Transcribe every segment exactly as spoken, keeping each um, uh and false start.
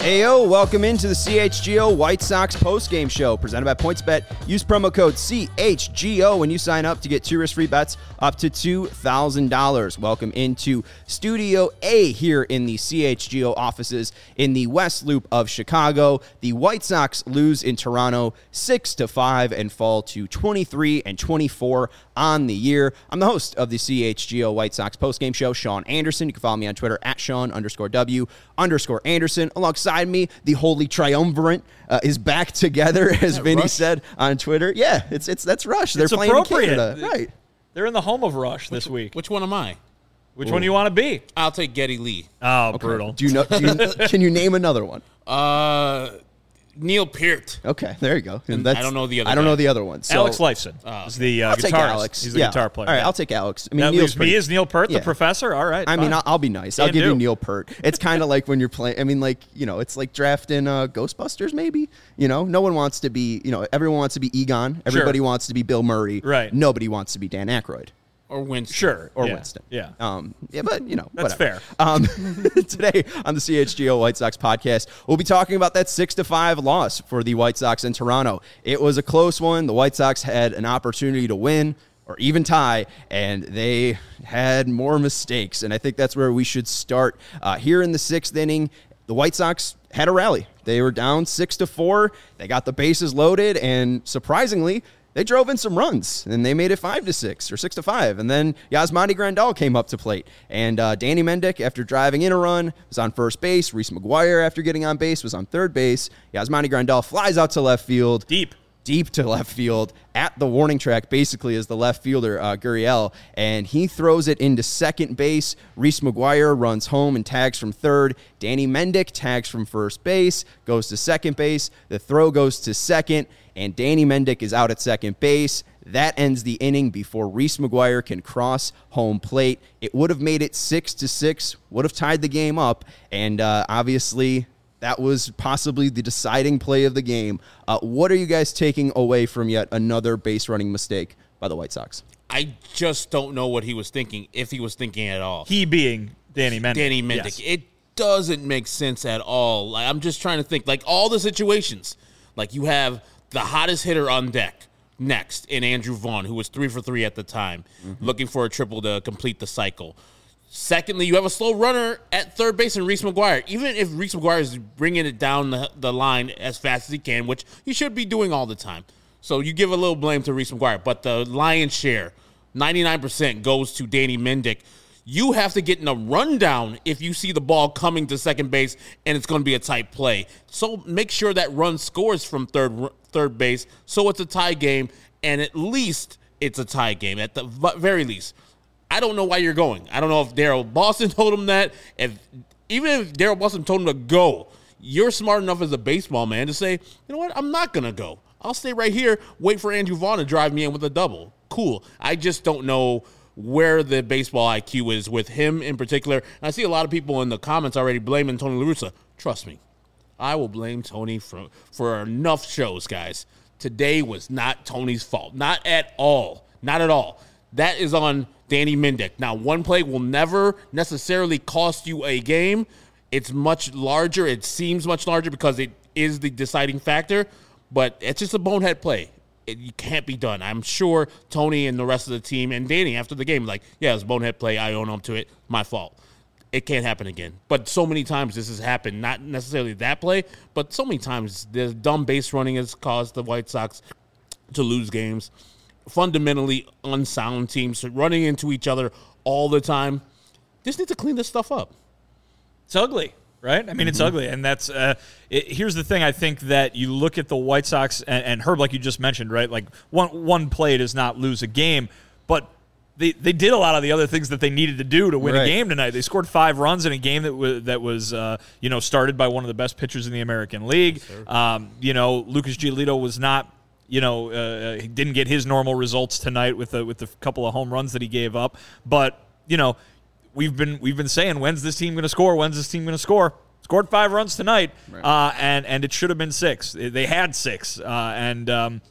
Heyo, welcome into the C H G O White Sox postgame show presented by PointsBet. Use promo code C H G O when you sign up to get two risk-free bets up to two thousand dollars. Welcome into Studio A here in the C H G O offices in the West Loop of Chicago. The White Sox lose in Toronto six to five and fall to twenty-three and twenty-four on the year. I'm the host of the C H G O White Sox postgame show, Sean Anderson. You can follow me on Twitter at Sean underscore W underscore Anderson. Alongside me, the holy triumvirate uh, is back together, as Vinny Rush? said on Twitter. Yeah, it's it's that's Rush. They're It's playing appropriate. in Canada. Right. They're in the home of Rush this week. Which one am I? Which one do you want to be? I'll take Geddy Lee. Oh, brutal. Do you know? Do you, can you name another one? Uh, Neil Peart. Okay, there you go. And I don't know the other I don't guy. know the other one. So Alex Lifeson Oh, is the uh, I'll guitarist. take Alex. He's the yeah. guitar player. All right, Yeah. I'll take Alex. I mean, That Neil's leaves me pretty- as Neil Peart, Yeah. the professor. All right. I mean, fine. I'll, I'll be nice. I'll Can give you do. Neil Peart. It's kind of like when you're playing. I mean, like, you know, it's like drafting uh, Ghostbusters. Maybe, you know, no one wants to be. You know, everyone wants to be Egon. Everybody wants to be Bill Murray. Right. Nobody wants to be Dan Aykroyd. Or Winston. Sure. Or yeah. Winston. Yeah. Um, yeah, but, you know, That's whatever. fair. Um, today on the C H G O White Sox podcast, we'll be talking about that six to five loss for the White Sox in Toronto. It was a close one. The White Sox had an opportunity to win or even tie, and they had more mistakes. And I think that's where we should start. Uh, here in the sixth inning, the White Sox had a rally. They were down six to four. They got the bases loaded, and surprisingly, they drove in some runs, and they made it five to six or six to five. And then Yasmani Grandal came up to plate, and uh, Danny Mendick, after driving in a run, was on first base. Reese McGuire, after getting on base, was on third base. Yasmani Grandal flies out to left field, Deep. deep to left field at the warning track, basically, as the left fielder, uh, Gurriel, and he throws it into second base. Reese McGuire runs home and tags from third. Danny Mendick tags from first base, goes to second base. The throw goes to second, and Danny Mendick is out at second base. That ends the inning before Reese McGuire can cross home plate. It would have made it six to six, would have tied the game up, and uh, obviously that was possibly the deciding play of the game. Uh, what are you guys taking away from yet another base running mistake by the White Sox? I just don't know what he was thinking, if he was thinking at all. He being Danny Mendick. Danny Mendick. Yes. It doesn't make sense at all. Like, I'm just trying to think, like, all the situations. Like, you have the hottest hitter on deck next in Andrew Vaughn, who was three for three at the time, mm-hmm. looking for a triple to complete the cycle. Secondly, you have a slow runner at third base in Reese McGuire. Even if Reese McGuire is bringing it down the, the line as fast as he can, which he should be doing all the time. So you give a little blame to Reese McGuire. But the lion's share, ninety-nine percent, goes to Danny Mendick. You have to get in a rundown if you see the ball coming to second base and it's going to be a tight play. So make sure that run scores from third third base so it's a tie game, and at least it's a tie game, at the very least. I don't know why you're going. I don't know if Daryl Boston told him that. If even if Daryl Boston told him to go, you're smart enough as a baseball man to say, you know what, I'm not going to go. I'll stay right here, wait for Andrew Vaughn to drive me in with a double. Cool. I just don't know where the baseball I Q is with him in particular. And I see a lot of people in the comments already blaming Tony La Russa. Trust me, I will blame Tony for, for enough shows, guys. Today was not Tony's fault. Not at all. Not at all. That is on Danny Mendick. Now, one play will never necessarily cost you a game. It's much larger. It seems much larger because it is the deciding factor, but it's just a bonehead play. It, you can't be done. I'm sure Tony and the rest of the team and Danny after the game like, yeah, it was a bonehead play. I own up to it. My fault. It can't happen again. But so many times this has happened. Not necessarily that play, but so many times the dumb base running has caused the White Sox to lose games. Fundamentally unsound teams running into each other all the time. Just need to clean this stuff up. It's ugly, right? I mean, mm-hmm. it's ugly. And that's uh, it, here's the thing. I think that you look at the White Sox and, and Herb, like you just mentioned, right? Like one one play does not lose a game, but they they did a lot of the other things that they needed to do to win right. a game tonight. They scored five runs in a game that was that was uh, you know started by one of the best pitchers in the American League. Yes, um, you know, Lucas Giolito was not. You know, uh, he didn't get his normal results tonight with the with the couple of home runs that he gave up. But you know, we've been we've been saying, when's this team going to score? When's this team going to score? Scored five runs tonight, right. uh, and and it should have been six. They had six, uh, and um,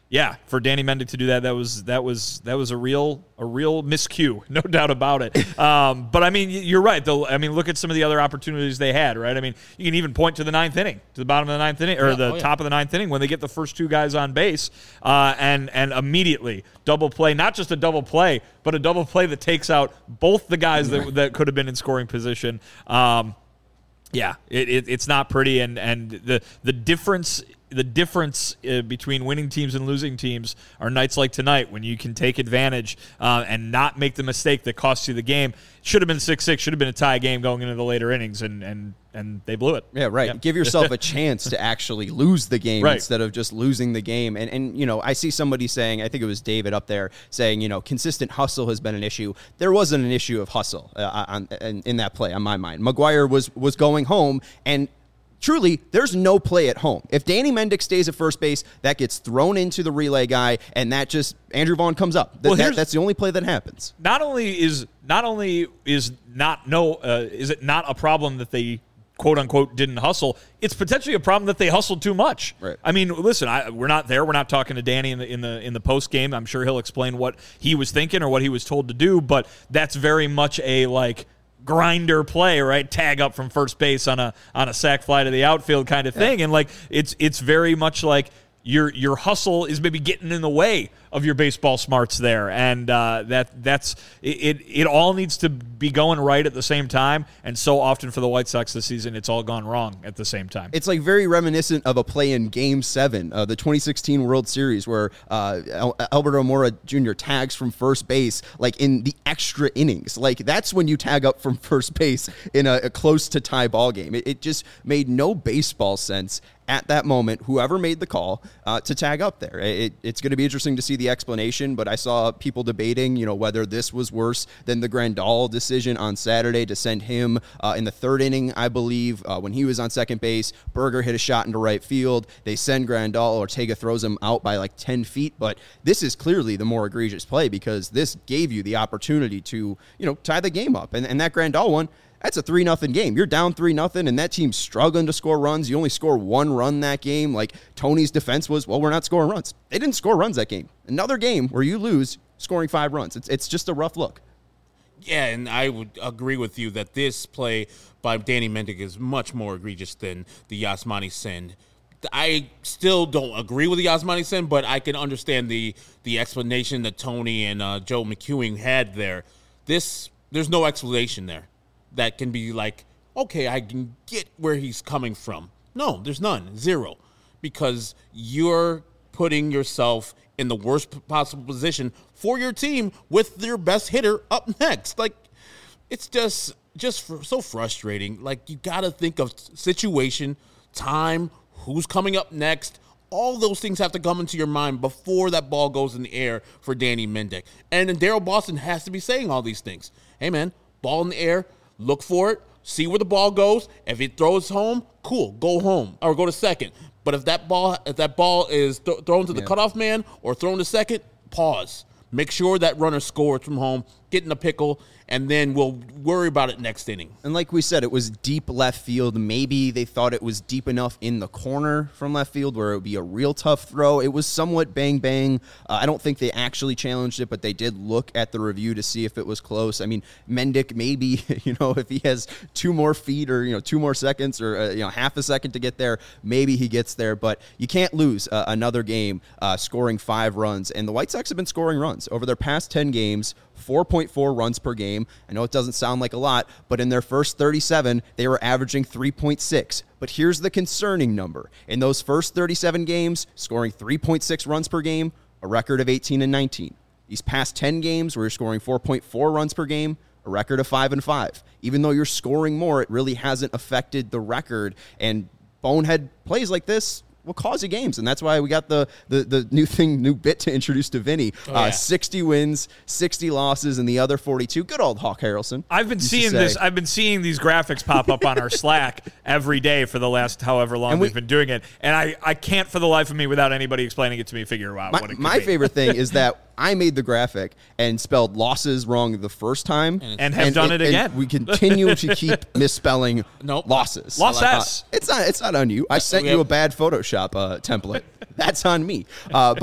Yeah, for Danny Mendick to do that, that was that was that was a real a real miscue, no doubt about it. Um, but I mean, you're right. Though I mean, look at some of the other opportunities they had. Right? I mean, you can even point to the ninth inning, to the bottom of the ninth inning, or yeah, the oh, yeah. top of the ninth inning when they get the first two guys on base, uh, and and immediately double play, not just a double play, but a double play that takes out both the guys that that could have been in scoring position. Um, yeah, it, it, it's not pretty, and and the the difference. The difference uh, between winning teams and losing teams are nights like tonight when you can take advantage uh, and not make the mistake that costs you the game. Should have been six six, should have been a tie game going into the later innings, and and, and they blew it. Yeah, right. Yeah. Give yourself a chance to actually lose the game right. instead of just losing the game. And, and, you know, I see somebody saying, I think it was David up there, saying, you know, consistent hustle has been an issue. There wasn't an issue of hustle uh, on, in, in that play on my mind. Maguire was was going home, and truly, there's no play at home. If Danny Mendick stays at first base, that gets thrown into the relay guy, and that just Andrew Vaughn comes up. That, well, that, that's the only play that happens. Not only is not only is not no uh, is it not a problem that they quote unquote didn't hustle. It's potentially a problem that they hustled too much. Right. I mean, listen, I, we're not there. We're not talking to Danny in the in the in the post game. I'm sure he'll explain what he was thinking or what he was told to do. But that's very much a like. grinder play, right? Tag up from first base on a on a sac fly to the outfield kind of thing. Yeah. And like it's it's very much like your your hustle is maybe getting in the way of your baseball smarts there. And uh, that that's it, it it all needs to be going right at the same time. And so often for the White Sox this season, it's all gone wrong at the same time. It's like very reminiscent of a play in Game seven, uh, the twenty sixteen World Series, where uh, Al- Albert Almora Junior tags from first base, like in the extra innings. Like that's when you tag up from first base in a, a close to tie ball game. It, it just made no baseball sense at that moment, whoever made the call uh, to tag up there. It, it's going to be interesting to see the explanation, but I saw people debating, you know, whether this was worse than the Grandal decision on Saturday to send him uh, in the third inning, I believe, uh, when he was on second base. Berger hit a shot into right field. They send Grandal. Ortega throws him out by like ten feet, but this is clearly the more egregious play because this gave you the opportunity to, you know, tie the game up. And, and that Grandal one, that's a three nothing game. You're down three nothing, and that team's struggling to score runs. You only score one run that game. Like, Tony's defense was, well, we're not scoring runs. They didn't score runs that game. Another game where you lose scoring five runs. It's it's just a rough look. Yeah, and I would agree with you that this play by Danny Mendick is much more egregious than the Yasmani send. I still don't agree with the Yasmani send, but I can understand the the explanation that Tony and uh, Joe McEwing had there. This, there's no explanation there that can be like, okay, I can get where he's coming from. No, there's none. Zero. Because you're putting yourself in the worst possible position for your team with your best hitter up next. Like, it's just just for, so frustrating. Like, you got to think of situation, time, who's coming up next. All those things have to come into your mind before that ball goes in the air for Danny Mendick. And then Daryl Boston has to be saying all these things. Hey, man, ball in the air. Look for it. See where the ball goes. If it throws home, cool. Go home or go to second. But if that ball, if that ball is th- thrown to the yeah. cutoff man or thrown to second, pause. Make sure that runner scores from home. Get in a pickle, and then we'll worry about it next inning. And like we said, it was deep left field. Maybe they thought it was deep enough in the corner from left field where it would be a real tough throw. It was somewhat bang-bang. Uh, I don't think they actually challenged it, but they did look at the review to see if it was close. I mean, Mendick, maybe, you know, if he has two more feet or, you know, two more seconds or, uh, you know, half a second to get there, maybe he gets there. But you can't lose uh, another game uh, scoring five runs. And the White Sox have been scoring runs over their past ten games. four point four runs per game. I know it doesn't sound like a lot, but in their first thirty-seven, they were averaging three point six. But here's the concerning number. In those first thirty-seven games, scoring three point six runs per game, a record of eighteen and nineteen. These past ten games where you're scoring four point four runs per game, a record of five and five. Even though you're scoring more, it really hasn't affected the record. And bonehead plays like this will cause you games, and that's why we got the the, the new thing, new bit to introduce to Vinny. Oh, yeah. uh, sixty wins, sixty losses, and the other forty-two. Good old Hawk Harrelson. I've been seeing this. I've been seeing these graphics pop up on our Slack every day for the last however long we, we've been doing it, and I, I can't for the life of me, without anybody explaining it to me, figure out my, what it could My be. favorite thing is that I made the graphic and spelled losses wrong the first time. And, and have and, done and, it again. We continue to keep misspelling nope. losses. Loss S. Uh, it's not It's not on you. I sent you a bad Photoshop uh, template. That's on me. Uh, but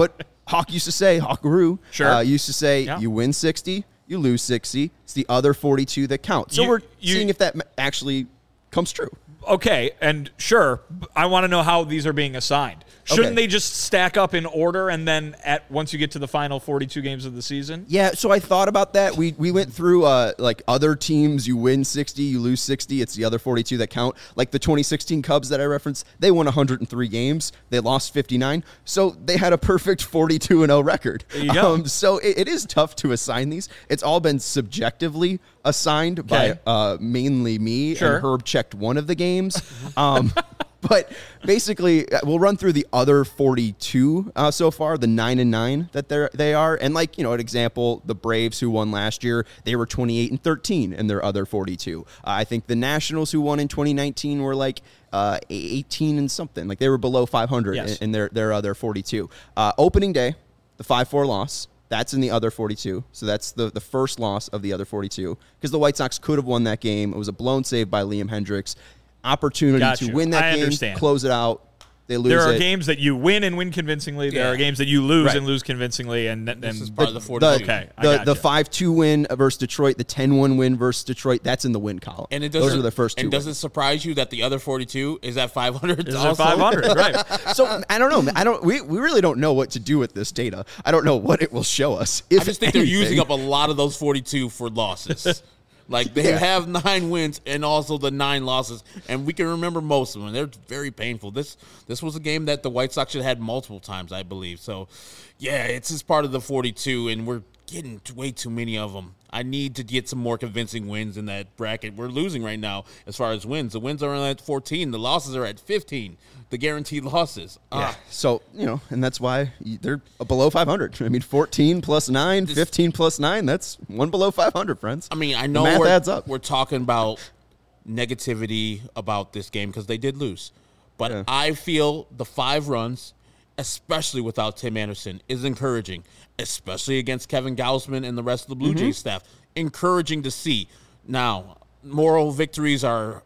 Hawk used to say, Hawkaroo, Sure. uh, used to say, Yeah. you win sixty, you lose sixty. It's the other forty-two that count. So You- we're you- seeing if that actually comes true. Okay, and sure, I want to know how these are being assigned. Shouldn't Okay. they just stack up in order and then at once you get to the final forty-two games of the season? Yeah, so I thought about that. We we went through uh, like other teams. You win sixty, you lose sixty. It's the other forty-two that count. Like the twenty sixteen Cubs that I referenced, they won one hundred three games. They lost fifty-nine. So they had a perfect forty-two and oh record. There you go. Um, so it, it is tough to assign these. It's all been subjectively assigned Okay. by uh, mainly me. Sure. And Herb checked one of the games. Um, But basically, uh, we'll run through the other forty-two uh, so far, the nine and nine that they they are, and like you know, an example, the Braves who won last year, they were twenty-eight and thirteen in their other forty-two. Uh, I think the Nationals who won in twenty nineteen were like uh, eighteen and something, like they were below five hundred Yes. in, in their their other forty-two. Uh, opening day, the five four loss. That's in the other forty-two. So that's the, the first loss of the other forty-two because the White Sox could have won that game. It was a blown save by Liam Hendricks. Opportunity Gotcha. to win that I game, understand. close it out. They lose There are it. games that you win and win convincingly. There Yeah. are games that you lose Right. and lose convincingly. And, and This is part of the The, forty-two. Okay, I the, gotcha. the five two win versus Detroit, the ten one win versus Detroit, that's in the win column. And it doesn't, Those are the first two. And does wins. it surprise you that the other forty-two is at five hundred? Is it five hundred, right? So I don't know. I don't. We, we really don't know what to do with this data. I don't know what it will show us. If I just think they're anything. using up a lot of those forty-two for losses. Like they Yeah. have nine wins and also the nine losses, and we can remember most of them. They're very painful. This this was a game that the White Sox should have had multiple times, I believe. So, yeah, it's just part of the forty-two, and we're getting t- way too many of them. I need to get some more convincing wins in that bracket. We're losing right now as far as wins. The wins are at fourteen. The losses are at fifteen. The guaranteed losses. Yeah. Ah. So, you know, and that's why they're below five hundred. I mean, fourteen plus nine, fifteen plus nine, that's one below five hundred, friends. I mean, I The know math we're, adds up. we're talking about negativity about this game because they did lose. But Yeah. I feel the five runs, especially without Tim Anderson, is encouraging, especially against Kevin Gausman and the rest of the Blue Mm-hmm. Jays staff. Encouraging to see. Now, moral victories are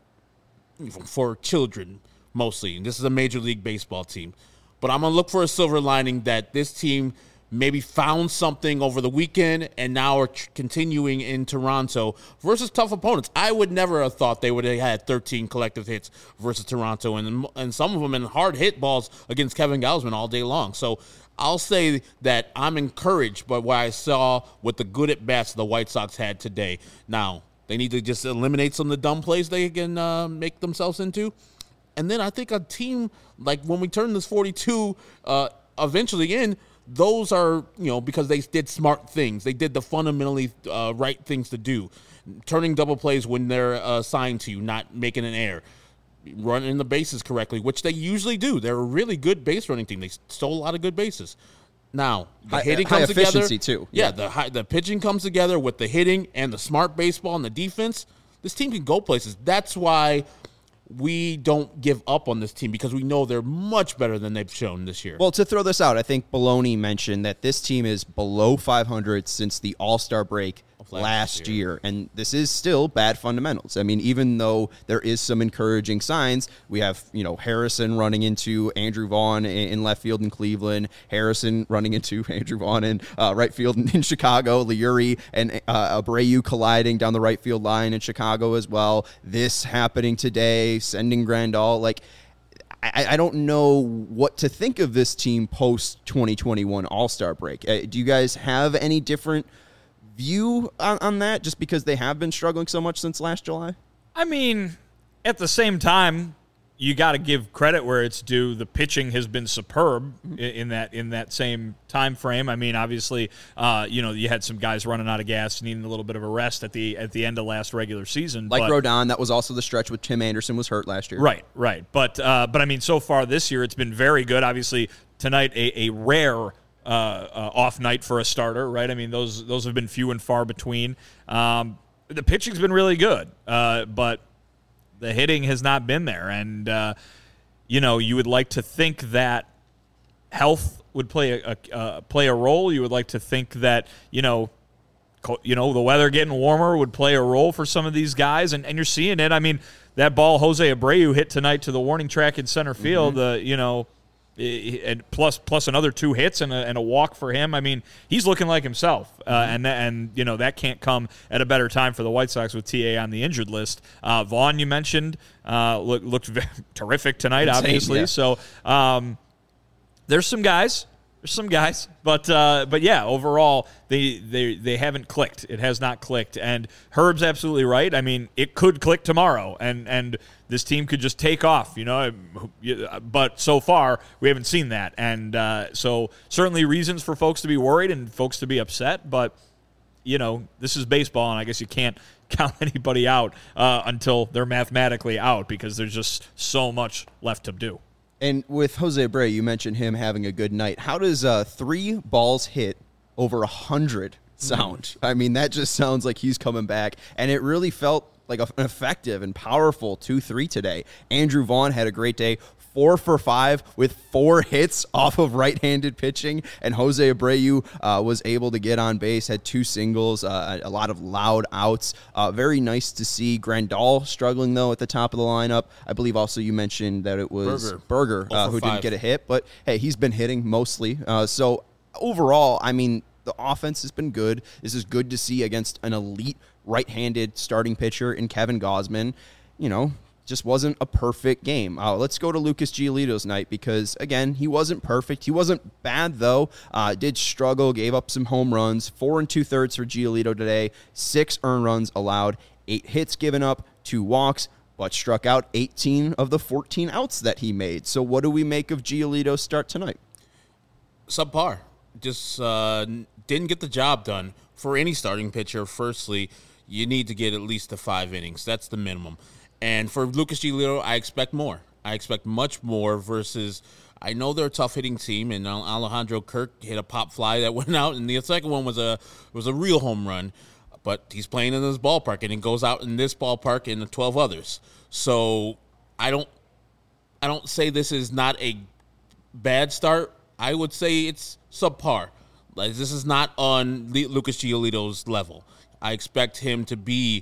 for children mostly. And this is a Major League Baseball team. But I'm going to look for a silver lining that this team maybe found something over the weekend and now are tr- continuing in Toronto versus tough opponents. I would never have thought they would have had thirteen collective hits versus Toronto, and and some of them in hard hit balls against Kevin Gausman all day long. So I'll say that I'm encouraged by what I saw with the good at bats the White Sox had today. Now, they need to just eliminate some of the dumb plays they can uh, make themselves into. And then I think a team, like when we turn this forty-two uh, eventually in, those are, you know, because they did smart things. They did the fundamentally uh, right things to do. Turning double plays when they're uh, assigned to you, not making an error. Running the bases correctly, which they usually do. They're a really good base running team. They stole a lot of good bases. Now, the High- hitting high comes together. efficiency, too. Yeah, Yeah. the high, the pitching comes together with the hitting and the smart baseball and the defense. This team can go places. That's why we don't give up on this team, because we know they're much better than they've shown this year. Well, to throw this out, I think Baloney mentioned that this team is below five hundred since the All-Star break last last year. year. And this is still bad fundamentals. I mean, even though there is some encouraging signs, we have, you know, Harrison running into Andrew Vaughn in, in left field in Cleveland, Harrison running into Andrew Vaughn in uh, right field in, in Chicago, Liuri and uh, Abreu colliding down the right field line in Chicago as well. This happening today, sending Grandal, like, I, I don't know what to think of this team post twenty twenty-one All-Star break. Uh, do you guys have any different view on, on that, just because they have been struggling so much since last July? I mean, at the same time, you got to give credit where it's due. The pitching has been superb in, in that in that same time frame. I mean, obviously, uh, you know, you had some guys running out of gas, needing a little bit of a rest at the at the end of last regular season. Like but, Rodon, that was also the stretch with Tim Anderson was hurt last year. Right, right. But uh, but I mean, so far this year, it's been very good. Obviously, tonight a, a rare. Uh, uh, off night for a starter, right? I mean, those those have been few and far between. Um, the pitching's been really good, uh, but the hitting has not been there. And, uh, you know, you would like to think that health would play a, a uh, play a role. You would like to think that, you know, co- you know, the weather getting warmer would play a role for some of these guys, and, and you're seeing it. I mean, that ball Jose Abreu hit tonight to the warning track in center field, mm-hmm. uh, you know, and plus plus another two hits and a, and a walk for him. I mean, he's looking like himself, uh, mm-hmm. and and you know that can't come at a better time for the White Sox with T A on the injured list. Uh, Vaughn, you mentioned, uh, look, looked very terrific tonight, Insane, obviously. Yeah. So um, there's some guys. There's some guys, but uh, but yeah, overall they, they they haven't clicked. It has not clicked, and Herb's absolutely right. I mean, it could click tomorrow, and, and this team could just take off, you know. But so far, we haven't seen that, and uh, so certainly reasons for folks to be worried and folks to be upset. But you know, this is baseball, and I guess you can't count anybody out uh, until they're mathematically out because there's just so much left to do. And with Jose Abreu, you mentioned him having a good night. How does uh, three balls hit over a hundred sound? Mm. I mean, that just sounds like he's coming back. And it really felt like an effective and powerful two three today. Andrew Vaughn had a great day. Four for five with four hits off of right-handed pitching, and Jose Abreu uh, was able to get on base, had two singles, uh, a lot of loud outs. Uh, very nice to see. Grandal struggling, though, at the top of the lineup. I believe also you mentioned that it was Berger, Berger uh, who didn't get a hit, but, hey, he's been hitting mostly. Uh, so, overall, I mean, the offense has been good. This is good to see against an elite right-handed starting pitcher in Kevin Gausman. You know, just wasn't a perfect game. Uh, let's go to Lucas Giolito's night because, again, he wasn't perfect. He wasn't bad, though. Uh, did struggle, gave up some home runs. Four and two-thirds for Giolito today. Six earned runs allowed. Eight hits given up. Two walks, but struck out eighteen of the fourteen outs that he made. So what do we make of Giolito's start tonight? Subpar. Just uh, didn't get the job done. For any starting pitcher, firstly, you need to get at least the five innings. That's the minimum. And for Lucas Giolito, I expect more. I expect much more versus I know they're a tough-hitting team, and Alejandro Kirk hit a pop fly that went out, and the second one was a was a real home run. But he's playing in this ballpark, and it goes out in this ballpark and the twelve others. So I don't I don't say this is not a bad start. I would say it's subpar. Like, this is not on Lucas Giolito's level. I expect him to be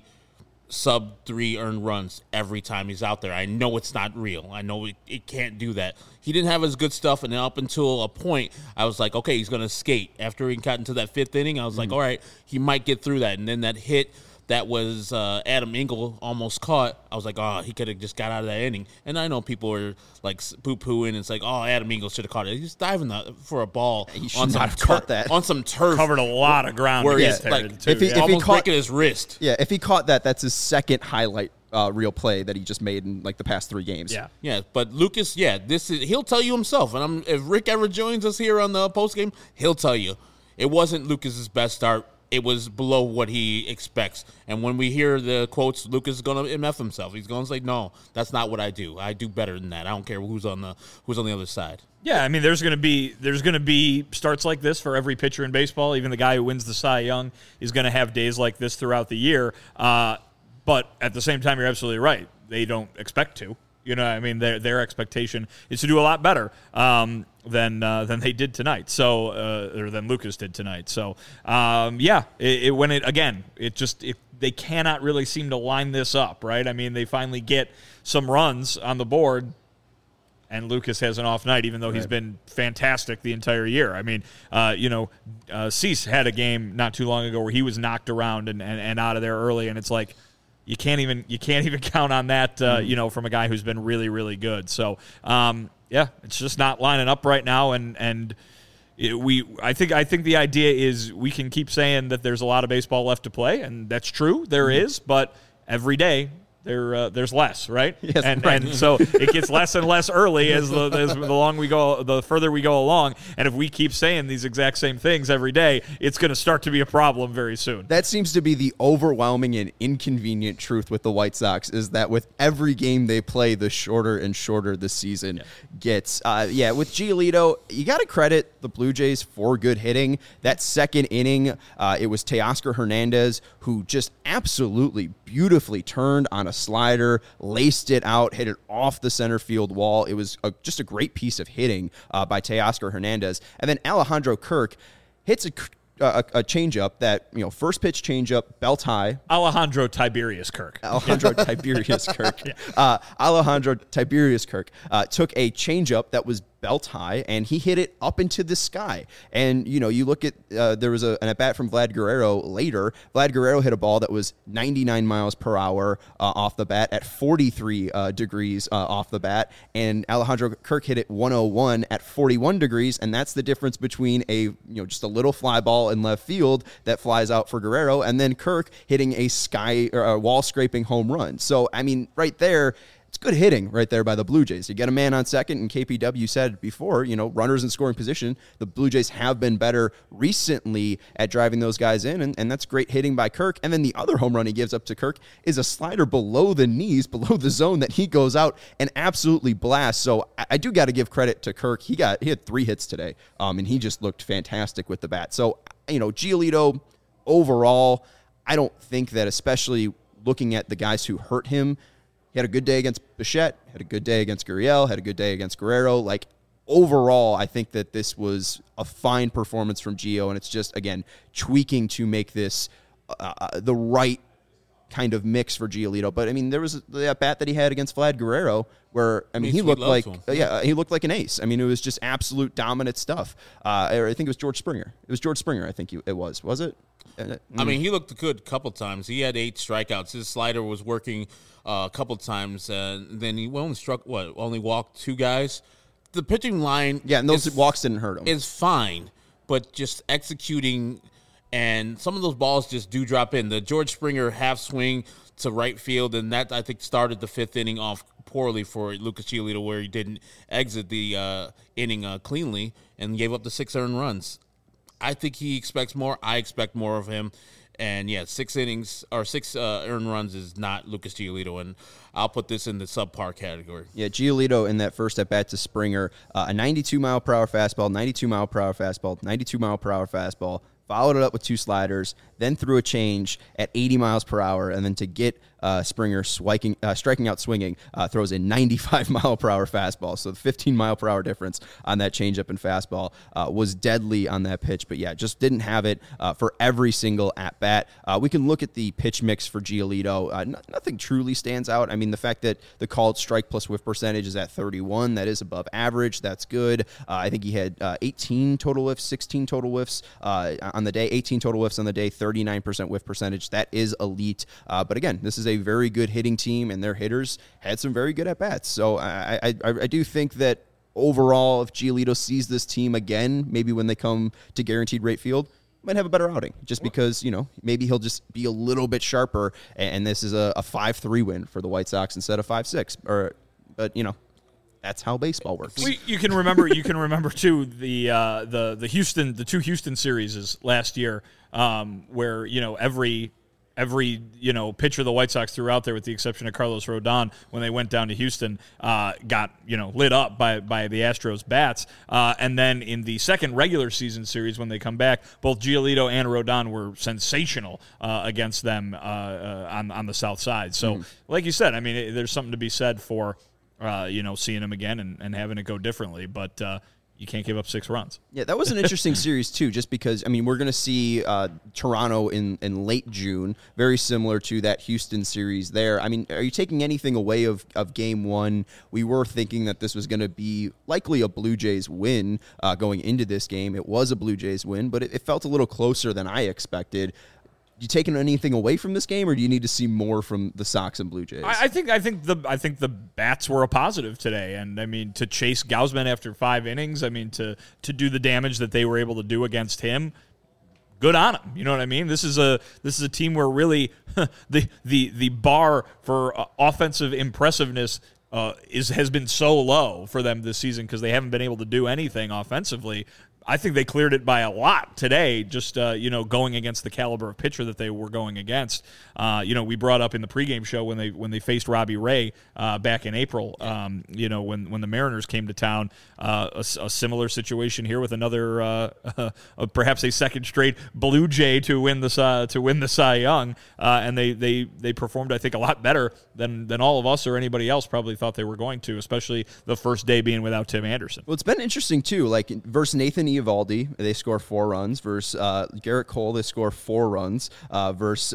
sub three earned runs every time he's out there. I know it's not real. I know it, it can't do that. He didn't have his good stuff, and then up until a point, I was like, okay, he's going to skate. After he got into that fifth inning, I was mm-hmm. like, all right, he might get through that. And then that hit that was uh, Adam Engel almost caught, I was like, oh, he could have just got out of that inning. And I know people are like poo-pooing, and it's like, oh, Adam Engel should have caught it. He's diving the, for a ball he should on not some have tur- caught that. on some turf. Covered a lot of ground. Where to he's get like, there, too. if he, if almost he caught, breaking his wrist. Yeah, if he caught that, that's his second highlight uh, real play that he just made in like the past three games. Yeah, yeah. But Lucas, yeah, this is he'll tell you himself. And I'm, if Rick ever joins us here on the post game, he'll tell you it wasn't Lucas's best start. It was below what he expects. And when we hear the quotes, Lucas is going to M F himself. He's going to say, no, that's not what I do. I do better than that. I don't care who's on the who's on the other side. Yeah, I mean, there's going to be there's going to be starts like this for every pitcher in baseball. Even the guy who wins the Cy Young is going to have days like this throughout the year. Uh, but at the same time, you're absolutely right. They don't expect to. You know, I mean, their their expectation is to do a lot better um, than uh, than they did tonight. So, uh, or than Lucas did tonight. So, um, yeah, it, it when it again, it just it, they cannot really seem to line this up, right? I mean, they finally get some runs on the board, and Lucas has an off night, even though right. he's been fantastic the entire year. I mean, uh, you know, uh, Cease had a game not too long ago where he was knocked around and, and, and out of there early, and it's like. You can't even you can't even count on that, uh, you know, from a guy who's been really, really good. So, um, yeah, it's just not lining up right now, and and it, we I think I think the idea is we can keep saying that there's a lot of baseball left to play, and that's true, there mm-hmm. is, but every day. There, uh, there's less, right? Yes, and right. and so it gets less and less early as the as the long we go, the further we go along. And if we keep saying these exact same things every day, it's going to start to be a problem very soon. That seems to be the overwhelming and inconvenient truth with the White Sox is that with every game they play, the shorter and shorter the season yeah. gets. Uh, yeah, with Giolito, you got to credit the Blue Jays for good hitting. That second inning, uh, it was Teoscar Hernandez who just absolutely beautifully turned on a slider, laced it out, hit it off the center field wall. It was a, just a great piece of hitting uh, by Teoscar Hernandez. And then Alejandro Kirk hits a, a, a changeup that, you know, first pitch changeup, belt high. Alejandro Tiberius Kirk. Alejandro Tiberius Kirk. yeah. uh, Alejandro Tiberius Kirk uh, took a changeup that was belt high, and he hit it up into the sky. And, you know, you look at, uh, there was a, an at-bat from Vlad Guerrero later. Vlad Guerrero hit a ball that was ninety-nine miles per hour uh, off the bat at forty-three uh, degrees uh, off the bat, and Alejandro Kirk hit it one oh one at forty-one degrees, and that's the difference between a, you know, just a little fly ball in left field that flies out for Guerrero, and then Kirk hitting a sky or a wall-scraping home run. So, I mean, right there, it's good hitting right there by the Blue Jays. You get a man on second, and K P W said before, you know, runners in scoring position, the Blue Jays have been better recently at driving those guys in, and, and that's great hitting by Kirk. And then the other home run he gives up to Kirk is a slider below the knees, below the zone, that he goes out and absolutely blasts. So I, I do got to give credit to Kirk. He got he had three hits today, um, and he just looked fantastic with the bat. So, you know, Giolito, overall, I don't think that, especially looking at the guys who hurt him, he had a good day against Bichette, had a good day against Gurriel, had a good day against Guerrero. Like, overall, I think that this was a fine performance from Gio, and it's just, again, tweaking to make this uh, the right kind of mix for Giolito. But, I mean, there was that bat that he had against Vlad Guerrero where, I mean, he looked like, uh, yeah, he looked like an ace. I mean, it was just absolute dominant stuff. Uh, I think it was George Springer. It was George Springer, I think it was. Was it? I mean, he looked good a couple times. He had eight strikeouts. His slider was working uh, a couple times, and then he only struck, what, only walked two guys? The pitching line... Yeah, and those is, walks didn't hurt him. ...is fine, but just executing, and some of those balls just do drop in. The George Springer half swing to right field, and that, I think, started the fifth inning off poorly for Lucas Giolito, where he didn't exit the uh, inning uh, cleanly and gave up the six earned runs. I think he expects more. I expect more of him. And, yeah, six innings or six uh, earned runs is not Lucas Giolito, and I'll put this in the subpar category. Yeah, Giolito in that first at-bat to Springer, uh, a ninety-two mile per hour fastball, ninety-two mile per hour fastball, ninety-two mile per hour fastball, followed it up with two sliders, then threw a change at eighty miles per hour, and then to get uh, Springer striking, uh, striking out swinging, uh, throws a ninety-five mile per hour fastball. So the fifteen mile per hour difference on that changeup and fastball uh, was deadly on that pitch. But yeah, just didn't have it uh, for every single at bat. Uh, we can look at the pitch mix for Giolito. Uh, n- nothing truly stands out. I mean, the fact that the called strike plus whiff percentage is at thirty-one, that is above average. That's good. Uh, I think he had uh, eighteen total whiffs, sixteen total whiffs uh, on the day, eighteen total whiffs on the day, thirty-nine percent whiff percentage. That is elite. Uh, but again, this is a very good hitting team, and their hitters had some very good at-bats. So I, I, I do think that overall, if Giolito sees this team again, maybe when they come to guaranteed rate field, might have a better outing, just because, you know, maybe he'll just be a little bit sharper, and this is a, a five three win for the White Sox instead of five six. Or, but, you know, that's how baseball works. We, you can remember, you can remember too the uh, the the Houston, the two Houston series last year, um, where you know every every you know pitcher the White Sox threw out there, with the exception of Carlos Rodon, when they went down to Houston, uh, got you know lit up by by the Astros bats. Uh, and then in the second regular season series, when they come back, both Giolito and Rodon were sensational uh, against them uh, uh, on on the South Side. So, mm-hmm. like you said, I mean, it, there's something to be said for uh, you know seeing him again and, and having it go differently, but. Uh, You can't give up six runs. Yeah, that was an interesting series, too, just because, I mean, we're going to see uh, Toronto in, in late June, very similar to that Houston series there. I mean, are you taking anything away of, of game one? We were thinking that this was going to be likely a Blue Jays win uh, going into this game. It was a Blue Jays win, but it, it felt a little closer than I expected. You taking anything away from this game, or do you need to see more from the Sox and Blue Jays? I, I think I think the I think the bats were a positive today, and I mean to chase Gausman after five innings, I mean to to do the damage that they were able to do against him. Good on him. You know what I mean? This is a this is a team where really the the the bar for uh, offensive impressiveness uh, is has been so low for them this season because they haven't been able to do anything offensively. I think they cleared it by a lot today, just, uh, you know, going against the caliber of pitcher that they were going against. Uh, you know, we brought up in the pregame show when they when they faced Robbie Ray uh, back in April, um, you know, when, when the Mariners came to town, uh, a, a similar situation here with another, uh, uh, perhaps a second straight Blue Jay to win the, uh, to win the Cy Young, uh, and they, they, they performed, I think, a lot better than, than all of us or anybody else probably thought they were going to, especially the first day being without Tim Anderson. Well, it's been interesting, too, like versus Nathan Eovaldi, they score four runs. Versus uh, Garrett Cole, they score four runs. Uh, versus uh,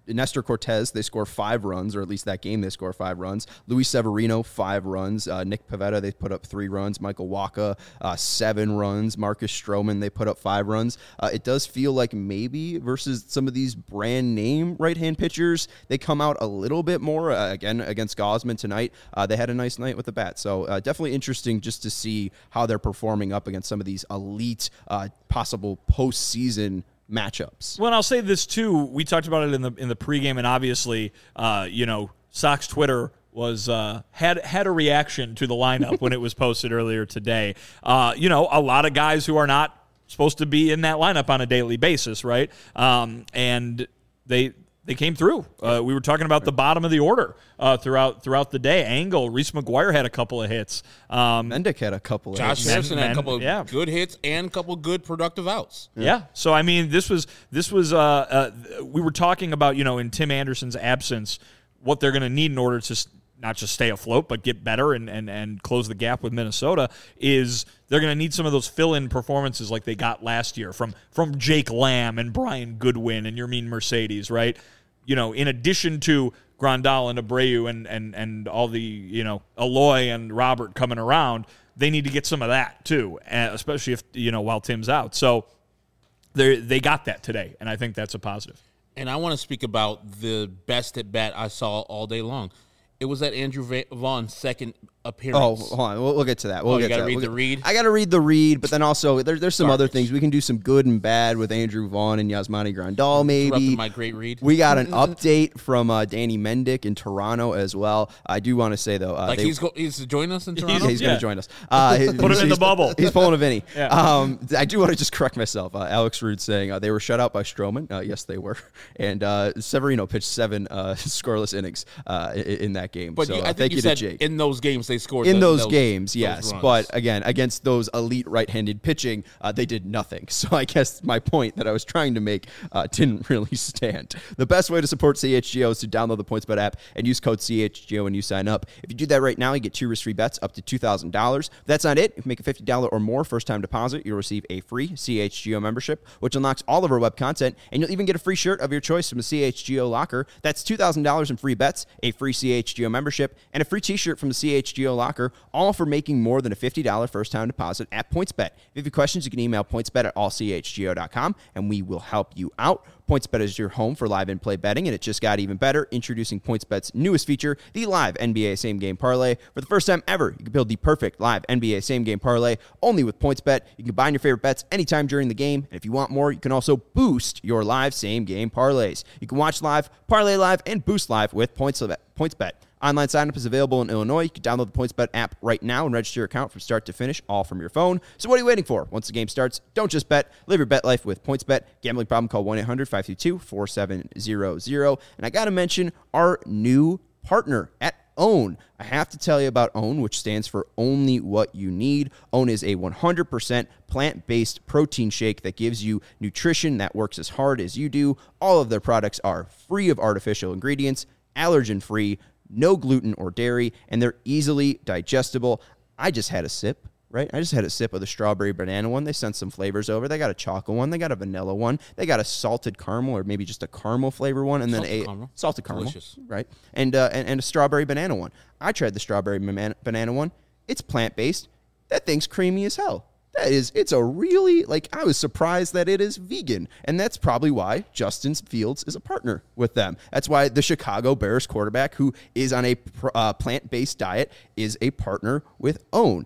Nestor Cortez, they score five runs, or at least that game they score five runs. Luis Severino, five runs. Uh, Nick Pivetta, they put up three runs. Michael Wacha, uh, seven runs. Marcus Stroman, they put up five runs. Uh, it does feel like maybe versus some of these brand name right-hand pitchers, they come out a little bit more. Uh, again, against Gausman tonight, uh, they had a nice night with the bat. So uh, definitely interesting just to see how they're performing up against some of these elite, uh, possible postseason matchups. Well, and I'll say this too. We talked about it in the in the pregame, and obviously, uh, you know, Sox Twitter was uh, had had a reaction to the lineup when it was posted earlier today. Uh, you know, a lot of guys who are not supposed to be in that lineup on a daily basis, right? Um, and they. They came through. Uh, we were talking about the bottom of the order uh, throughout throughout the day. Angle, Reese McGuire had a couple of hits. Um, Mendick had a couple of Josh hits. Harrison Men- had a couple of yeah. good hits and a couple of good productive outs. Yeah. yeah. So I mean, this was this was. Uh, uh, we were talking about, you know, in Tim Anderson's absence, what they're going to need in order to s- not just stay afloat, but get better and, and, and close the gap with Minnesota is they're going to need some of those fill-in performances like they got last year from from Jake Lamb and Brian Goodwin and Yermin Mercedes, right? You know, in addition to Grandal and Abreu and, and, and all the, you know, Eloy and Robert coming around, they need to get some of that too, especially if, you know, while Tim's out. So they they got that today, and I think that's a positive. And I want to speak about the best at bat I saw all day long. It was that Andrew Vaughn's second appearance. Oh, hold on. We'll, we'll get to that. We'll Oh, get you got to to read that. the We'll read? get, I got to read the read, but then also there, there's some Garbage. other things. We can do some good and bad with Andrew Vaughn and Yasmani Grandal, maybe. Interrupted my great read. We got an update from uh, Danny Mendick in Toronto as well. I do want to say, though. Uh, Like they, he's go- he's joining us in Yeah, Toronto? he's Yeah. going to join us. Uh, he- Put him in he's- the bubble. He's pulling a Vinny. Yeah. Um, I do want to just correct myself. Uh, Alex Rude saying uh, they were shut out by Stroman. Uh, yes, they were. And uh, Severino pitched seven uh, scoreless innings uh, in, in that game. But so you, uh, I think thank you, you said to Jake. in those games they scored. In the- those, games, yes. runs. But again, against those elite right-handed pitching, uh, they did nothing. So I guess my point that I was trying to make uh, didn't really stand. The best way to support C H G O is to download the PointsBet app and use code C H G O when you sign up. If you do that right now, you get two risk-free bets up to two thousand dollars. If that's not it, if you make a fifty dollars or more first-time deposit, you'll receive a free C H G O membership, which unlocks all of our web content, and you'll even get a free shirt of your choice from the C H G O locker. That's two thousand dollars in free bets, a free C H G O membership, and a free t-shirt from the C H G O locker, all for making more than a fifty dollars first-time deposit at PointsBet. If you have any questions, you can email pointsbet at all c h g o dot com, and we will help you out. PointsBet is your home for live in-play betting, and it just got even better. Introducing PointsBet's newest feature, the live N B A same-game parlay. For the first time ever, you can build the perfect live N B A same-game parlay only with PointsBet. You can combine your favorite bets anytime during the game, and if you want more, you can also boost your live same-game parlays. You can watch live, parlay live, and boost live with PointsBet. PointsBet. Online sign-up is available in Illinois. You can download the PointsBet app right now and register your account from start to finish, all from your phone. So what are you waiting for? Once the game starts, don't just bet. Live your bet life with PointsBet. Gambling problem, call one eight hundred five two two four seven zero zero. And I got to mention our new partner at OWN. I have to tell you about OWN, which stands for Only What You Need. OWN is a one hundred percent plant-based protein shake that gives you nutrition that works as hard as you do. All of their products are free of artificial ingredients, allergen-free, no gluten or dairy, and they're easily digestible. I just had a sip, right? I just had a sip of the strawberry banana one. They sent some flavors over. They got a chocolate one. They got a vanilla one. They got a salted caramel or maybe just a caramel flavor one, and then Salted a caramel. salted caramel, Delicious. right? And, uh, and and a strawberry banana one. I tried the strawberry man- banana one. It's plant-based. That thing's creamy as hell. That is, it's a really, like, I was surprised that it is vegan. And that's probably why Justin Fields is a partner with them. That's why the Chicago Bears quarterback, who is on a pr- uh, plant-based diet, is a partner with OWN.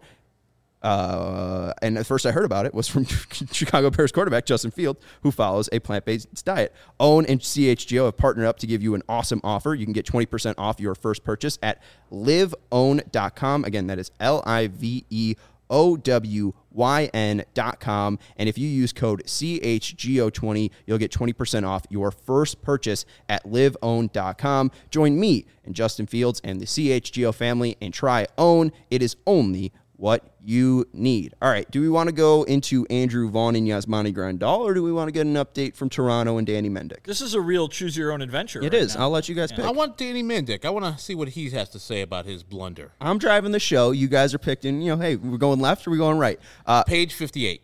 Uh, and at first I heard about it was from Chicago Bears quarterback Justin Fields, who follows a plant-based diet. OWN and C H G O have partnered up to give you an awesome offer. You can get twenty percent off your first purchase at live own dot com. Again, that is L I V E O W Y N dot com. And if you use code C H G O twenty, you'll get twenty percent off your first purchase at live own dot com. Join me and Justin Fields and the C H G O family and try OWN. It is only what you need. All right, do we want to go into Andrew Vaughn and Yasmani Grandal, or do we want to get an update from Toronto and Danny Mendick? This is a real choose-your-own-adventure. It right is. now. I'll let you guys pick. I want Danny Mendick. I want to see what he has to say about his blunder. I'm driving the show. You guys are picking, you know, hey, we're going left or we going right? Uh, Page fifty-eight.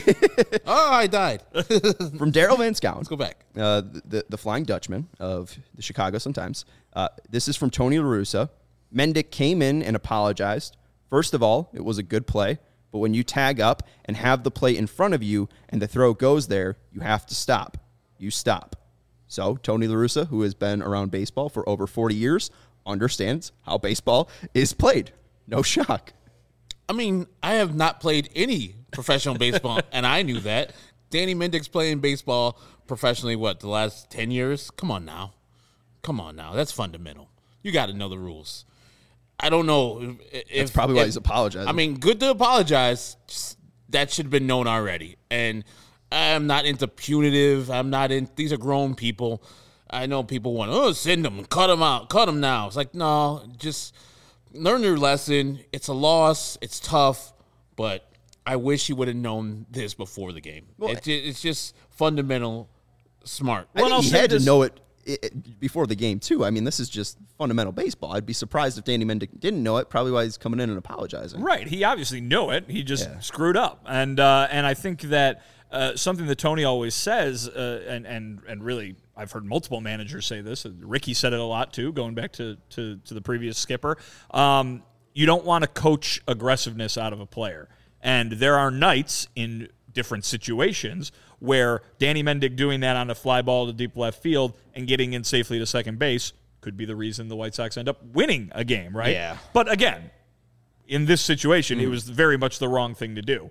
Oh, I died. from Daryl Van Scouten. Let's go back. Uh, the, the Flying Dutchman of the Chicago Sun-Times. Uh, this is from Tony La Russa. Mendick came in and apologized. First of all, it was a good play, but when you tag up and have the play in front of you and the throw goes there, you have to stop. You stop. So Tony La Russa, who has been around baseball for over forty years, understands how baseball is played. No shock. I mean, I have not played any professional baseball, and I knew that. Danny Mendick's playing baseball professionally, what, the last ten years? Come on now. Come on now. That's fundamental. You got to know the rules. I don't know if... That's probably why if, he's apologizing. I mean, good to apologize. Just, that should have been known already. And I'm not into punitive. I'm not in... These are grown people. I know people want, oh, send them, cut them out, cut them now. It's like, no, just learn your lesson. It's a loss. It's tough. But I wish he would have known this before the game. Well, it, it's just fundamental smart. I think I'll he say had this- to know it, it before the game, too. I mean, this is just fundamental baseball. I'd be surprised if Danny Mendick didn't know it, probably why he's coming in and apologizing. Right. He obviously knew it. He just Yeah. screwed up. And uh, and I think that uh, something that Tony always says, uh, and, and, and really I've heard multiple managers say this. Ricky said it a lot, too, going back to, to, to the previous skipper. Um, you don't want to coach aggressiveness out of a player. And there are nights in different situations where Danny Mendick doing that on a fly ball to deep left field and getting in safely to second base could be the reason the White Sox end up winning a game, right? Yeah. But again, in this situation, mm. it was very much the wrong thing to do.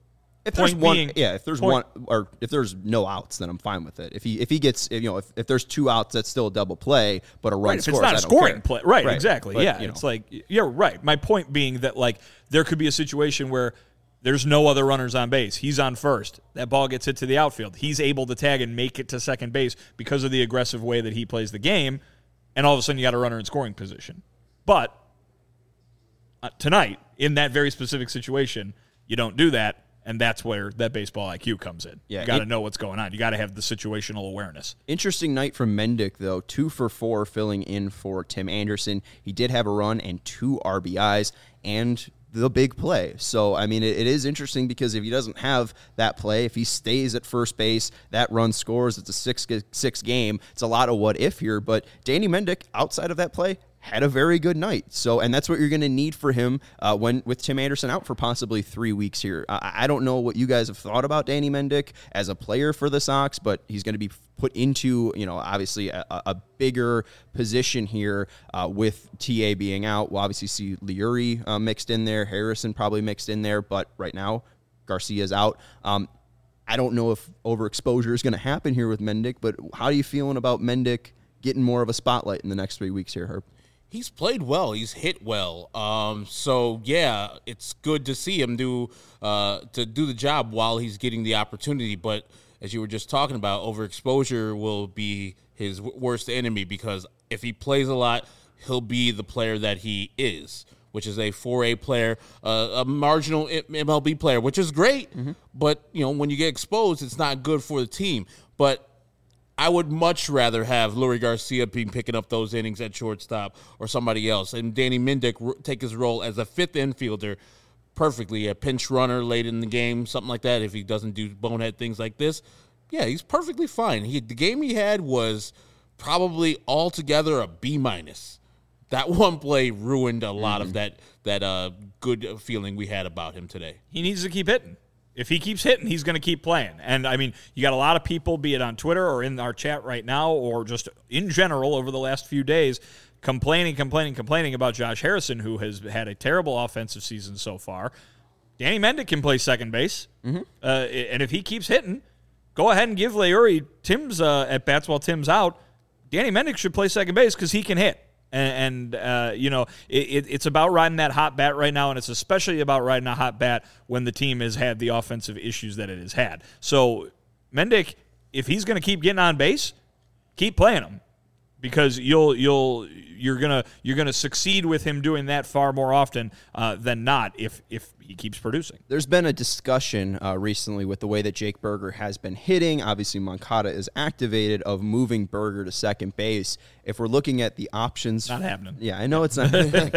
If there's Point one, being- yeah, if there's point- one, or if there's no outs, then I'm fine with it. If he if he gets, if, you know, if, if there's two outs, that's still a double play, but a run Right, if scores. it's not I a don't scoring care. play, right, Right, exactly, but, yeah. you know. It's like, yeah, right. My point being that, like, there could be a situation where there's no other runners on base. He's on first. That ball gets hit to the outfield. He's able to tag and make it to second base because of the aggressive way that he plays the game, and all of a sudden you got a runner in scoring position. But uh, tonight, in that very specific situation, you don't do that, and that's where that baseball I Q comes in. Yeah, you got to it- know what's going on. You got to have the situational awareness. Interesting night from Mendick, though. Two for four filling in for Tim Anderson. He did have a run and two R B Is and the big play. So, I mean, it, it is interesting because if he doesn't have that play, if he stays at first base, that run scores, it's a six, six game. It's a lot of what if here. But Danny Mendick, outside of that play, had a very good night. So, and that's what you're going to need for him uh, when with Tim Anderson out for possibly three weeks here. I, I don't know what you guys have thought about Danny Mendick as a player for the Sox, but he's going to be put into, you know, obviously a, a bigger position here uh, with T A being out. We'll obviously see Leury uh, mixed in there, Harrison probably mixed in there, but right now Garcia's out. Um, I don't know if overexposure is going to happen here with Mendick, but how are you feeling about Mendick getting more of a spotlight in the next three weeks here, Herb? He's played well. He's hit well. Um, so yeah, it's good to see him do uh, to do the job while he's getting the opportunity. But as you were just talking about, overexposure will be his w- worst enemy because if he plays a lot, he'll be the player that he is, which is a four A player, uh, a marginal M L B player, which is great. Mm-hmm. But you know, when you get exposed, it's not good for the team. But I would much rather have Leury Garcia being picking up those innings at shortstop or somebody else, and Danny Mendick r- take his role as a fifth infielder perfectly, a pinch runner late in the game, something like that. If he doesn't do bonehead things like this, yeah, he's perfectly fine. He, the game he had was probably altogether a B minus. That one play ruined a lot mm-hmm. of that that uh, good feeling we had about him today. He needs to keep hitting. If he keeps hitting, he's going to keep playing. And, I mean, you got a lot of people, be it on Twitter or in our chat right now or just in general over the last few days, complaining, complaining, complaining about Josh Harrison, who has had a terrible offensive season so far. Danny Mendick can play second base. Mm-hmm. Uh, and if he keeps hitting, go ahead and give Leury Tim's uh, at-bats while Tim's out. Danny Mendick should play second base because he can hit. And, and uh, you know, it, it's about riding that hot bat right now, and it's especially about riding a hot bat when the team has had the offensive issues that it has had. So, Mendick, if he's going to keep getting on base, keep playing him because you'll you'll you're gonna you're gonna succeed with him doing that far more often uh, than not if if he keeps producing. There's been a discussion uh, recently with the way that Jake Burger has been hitting. Obviously, Moncada is activated of moving Burger to second base. If we're looking at the options, Not happening. Yeah, I know it's not happening.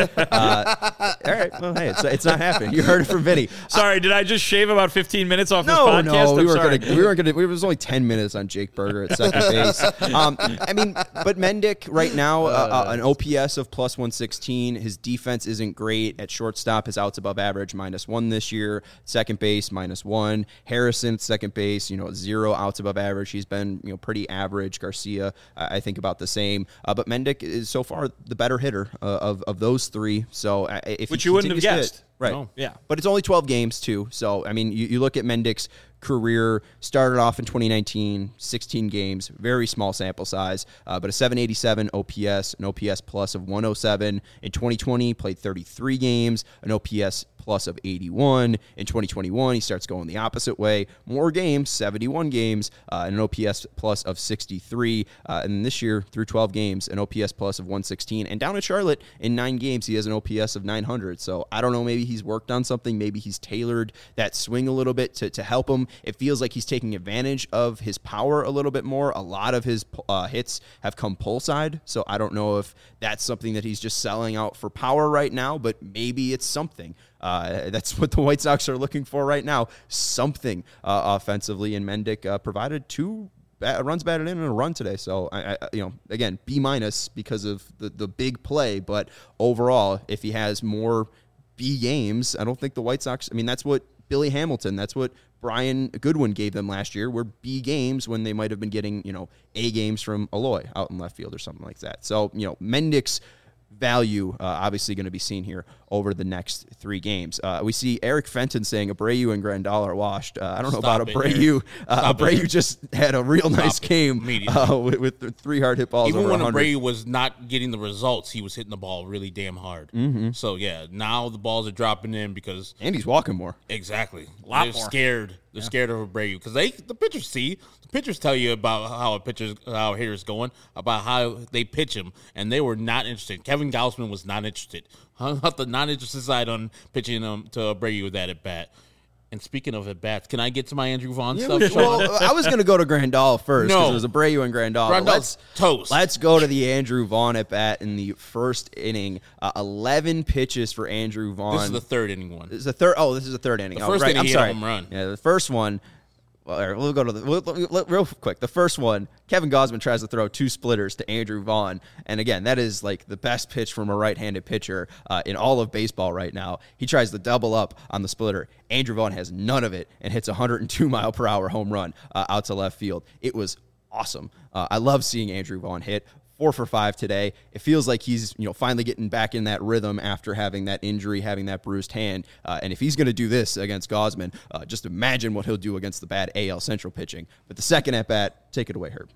uh, all right, well, hey, it's, it's not happening. You heard it from Vinny. Sorry, did I just shave about fifteen minutes off No, this podcast? no, we I'm weren't sorry. gonna. We weren't gonna. It was only ten minutes on Jake Burger at second base. Um, I mean, but Mendick right now, uh, uh, an O P S of plus one sixteen. His defense isn't great at shortstop. His outs above average minus one this year. Second base minus one. Harrison second base, you know, zero outs above average. He's been you know pretty average. Garcia, uh, I think about the same. Uh, but Mendick is so far the better hitter uh, of of those three. So uh, if Which he you wouldn't have continues to hit- guessed. Right. No. Yeah. But it's only twelve games, too. So, I mean, you, you look at Mendick's career, started off in twenty nineteen, sixteen games, very small sample size, uh, but a seven eighty-seven O P S, an O P S plus of one oh seven. In twenty twenty, played thirty-three games, an O P S plus of eighty-one. In twenty twenty-one, he starts going the opposite way. More games, seventy-one games, uh, and an O P S plus of sixty-three. Uh, and this year, through twelve games, an O P S plus of one sixteen. And down at Charlotte, in nine games, he has an O P S of nine hundred. So I don't know, maybe he's worked on something. Maybe he's tailored that swing a little bit to, to help him. It feels like he's taking advantage of his power a little bit more. A lot of his uh, hits have come pull side. So I don't know if that's something that he's just selling out for power right now, but maybe it's something. Uh, that's what the White Sox are looking for right now, something uh, offensively. And Mendick uh, provided two bat- runs batted in and a run today. So, I, I, you know, again, B minus because of the, the big play. But overall, if he has more B games, I don't think the White Sox, I mean, that's what Billy Hamilton, that's what Brian Goodwin gave them last year, were B games when they might have been getting, you know, A games from Eloy out in left field or something like that. So, you know, Mendick's value uh, obviously going to be seen here over the next three games. Uh, we see Eric Fenton saying Abreu and Grandal are washed. Uh, I don't know Stop about it, Abreu. Uh, Abreu it. just had a real nice Stop it game immediately. uh, with, with the three hard hit balls Even over when one hundred. Abreu was not getting the results, he was hitting the ball really damn hard. Mm-hmm. So, yeah, now the balls are dropping in because And he's walking more. exactly. Lot They're more. scared. They're scared of Abreu because they the pitchers see the pitchers tell you about how a pitcher's how a hitter's going, about how they pitch him, and they were not interested. Kevin Gausman was not interested. Hung up the not interested side on pitching him to Abreu with that at bat. And speaking of at bats, can I get to my Andrew Vaughn stuff? Sean? Well, I was going to go to Grandal first because No. it was Abreu and Grandal. Grandal's let's, toast. Let's go to the Andrew Vaughn at bat in the first inning. Uh, eleven pitches for Andrew Vaughn. This is the third inning one. This is the third. Oh, this is the third inning. The oh, first right. inning I'm he hit a sorry. home run. Yeah, the first one. Well, all right, we'll go to the we'll, we'll, we'll- real quick. The first one, Kevin Gausman tries to throw two splitters to Andrew Vaughn, and again, that is like the best pitch from a right-handed pitcher uh, in all of baseball right now. He tries to double up on the splitter. Andrew Vaughn has none of it and hits a one hundred two mile per hour home run uh, out to left field. It was awesome. Uh, I love seeing Andrew Vaughn hit. Four for five today. It feels like he's, you know, finally getting back in that rhythm after having that injury, having that bruised hand. Uh, and if he's going to do this against Gausman, uh, just imagine what he'll do against the bad A L Central pitching. But the second at bat, take it away, Herb.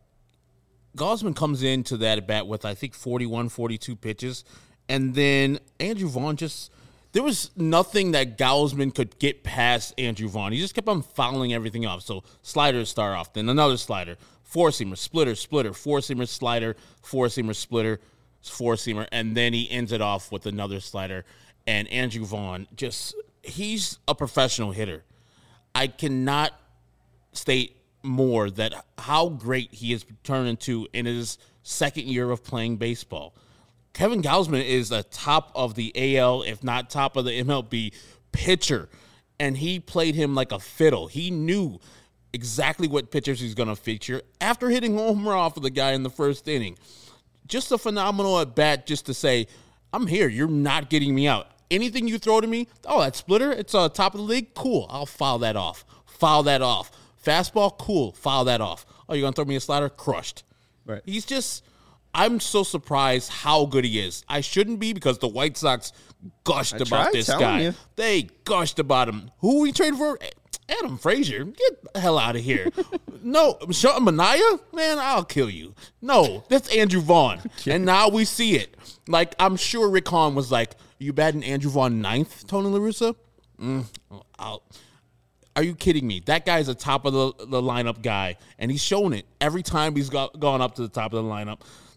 Gausman comes into that at bat with, I think, forty-one, forty-two pitches. And then Andrew Vaughn just, there was nothing that Gausman could get past Andrew Vaughn. He just kept on fouling everything off. So sliders start off, then another slider, four-seamer, splitter, splitter, four-seamer, slider, four-seamer, splitter, four-seamer. And then he ends it off with another slider. And Andrew Vaughn just, he's a professional hitter. I cannot state more that how great he has turned into in his second year of playing baseball. Kevin Gausman is the top of the A L, if not top of the M L B pitcher, and he played him like a fiddle. He knew exactly what pitchers he's going to feature after hitting home run off of the guy in the first inning. Just a phenomenal at bat just to say, I'm here. You're not getting me out. Anything you throw to me, oh, that splitter, it's on uh, top of the league, cool. I'll foul that off. Foul that off. Fastball, cool. Foul that off. Oh, you're going to throw me a slider? Crushed. Right. He's just, I'm so surprised how good he is. I shouldn't be because the White Sox gushed I about tried this telling guy. you. They gushed about him. Who we traded for? Adam Frazier. Get the hell out of here. No, Sean Manaea? Man, I'll kill you. No, that's Andrew Vaughn. And now we see it. Like, I'm sure Rick Hahn was like, you batting Andrew Vaughn ninth, Tony La Russa? Mm, I'll... Are you kidding me? That guy's a top of the, the lineup guy, and he's shown it every time he's got, gone up to the top of the lineup.